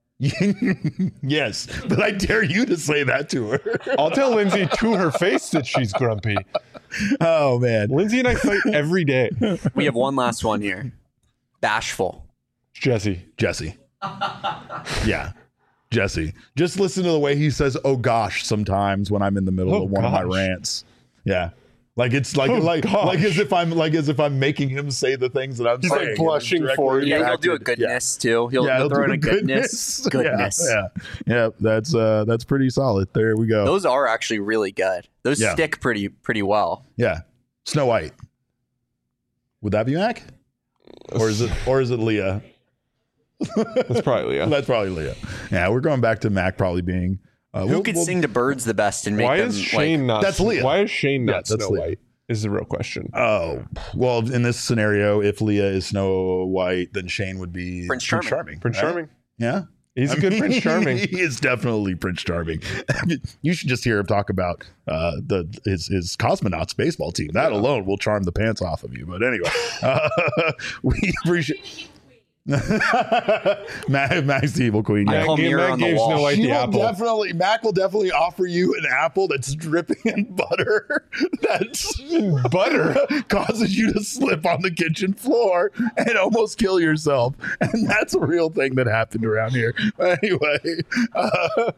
Yes, but I dare you to say that to her. I'll tell Lindsay to her face that she's grumpy. Oh man, Lindsay and I fight every day. We have one last one here. Bashful. Jesse. Jesse. Yeah, Jesse. Just listen to the way he says "oh gosh" sometimes when I'm in the middle Oh, of one of my gosh. rants. Yeah, like it's like Oh, like gosh. like as if I'm like as if I'm making him say the things that I'm He's, like, saying. blushing Directly for you. Yeah, he'll do a impacted. goodness too. He'll, Yeah, he'll throw do in a goodness. Goodness. Yeah, yeah, yeah. That's uh, that's pretty solid. There we go. Those are actually really good. Those Yeah. stick pretty pretty well. Yeah, Snow White. Would that be Mac, or is it or is it Leah? That's probably Leah. That's probably Leah. Yeah, we're going back to Mac probably being. Uh, Who we'll- could we'll- sing the birds the best and make Why them is Shane like? not? That's Leah. Why is Shane Yeah, not that's Snow Leah. White? Is the real question. Oh well, in this scenario, if Leah is Snow White, then Shane would be Prince Charming. Prince right? Charming. Yeah, He's a I good mean, Prince Charming. He is definitely Prince Charming. You should just hear him talk about uh, the his, his cosmonauts baseball team. That alone will charm the pants off of you. But anyway, uh, we appreciate. Mac, Mac's the evil queen. I Yeah. call Mac- mirror Mac on the gave wall. Snow White She the will apple. definitely, Mac will definitely offer you an apple that's dripping in butter that's Butter. causes you to slip on the kitchen floor and almost kill yourself. And that's a real thing that happened around here. Anyway, uh,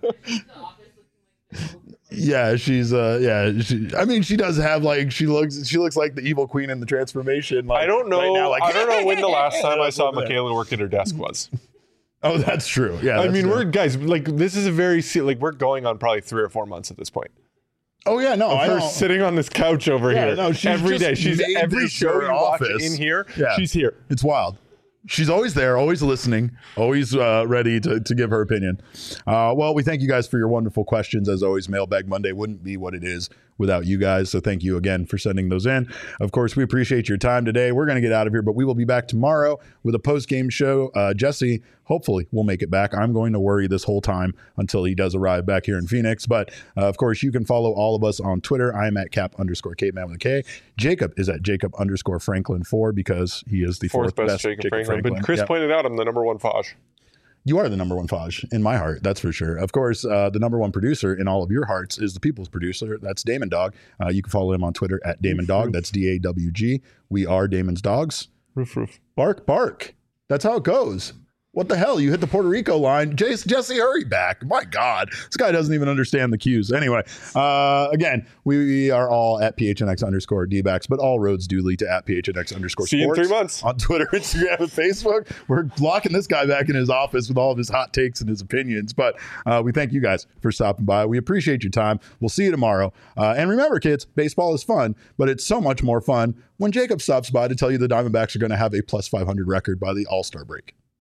yeah, she's uh, yeah. She, I mean, she does have like she looks she looks like the evil queen in the transformation. Like, I don't know. right now, like, I don't know when the last time I saw over there. Michaela work at her desk was. Oh, that's true. Yeah, I that's mean, true. we're guys like this is a very se- like we're going on probably three or four months at this point. Oh yeah, no, I Her don't. sitting on this couch over Yeah, here no, she's every just day. She's made every this show her you watch office. in here. Yeah. She's here. It's wild. She's always there, always listening, always uh, ready to, to give her opinion. Uh, well, we thank you guys for your wonderful questions. As always, Mailbag Monday wouldn't be what it is without you guys. So thank you again for sending those in. Of course, we appreciate your time today. We're going to get out of here, but we will be back tomorrow with a post-game show. Uh, Jesse, hopefully, will make it back. I'm going to worry this whole time until he does arrive back here in Phoenix. But uh, of course, you can follow all of us on Twitter. I'm at cap underscore caveman with a K. Jacob is at Jacob underscore Franklin four because he is the Fourth, fourth, best, Jacob, Franklin. But Chris Yep. pointed out I'm the number one Fosh. You are the number one Faj in my heart, that's for sure. Of course, uh, the number one producer in all of your hearts is the people's producer. That's Damon Dog. Uh, you can follow him on Twitter at Damon Dog. That's D A W G. We are Damon's Dogs. Roof, roof. Bark, bark. That's how it goes. What the hell? You hit the Puerto Rico line. Jace, Jesse, hurry back. My God. This guy doesn't even understand the cues. Anyway, uh, again, we are all at P H N X underscore D-backs, but all roads do lead to at P H N X underscore See you in sports. three months. On Twitter, Instagram, and Facebook. We're locking this guy back in his office with all of his hot takes and his opinions. But uh, we thank you guys for stopping by. We appreciate your time. We'll see you tomorrow. Uh, and remember, kids, baseball is fun, but it's so much more fun when Jacob stops by to tell you the Diamondbacks are going to have a plus five hundred record by the All-Star break.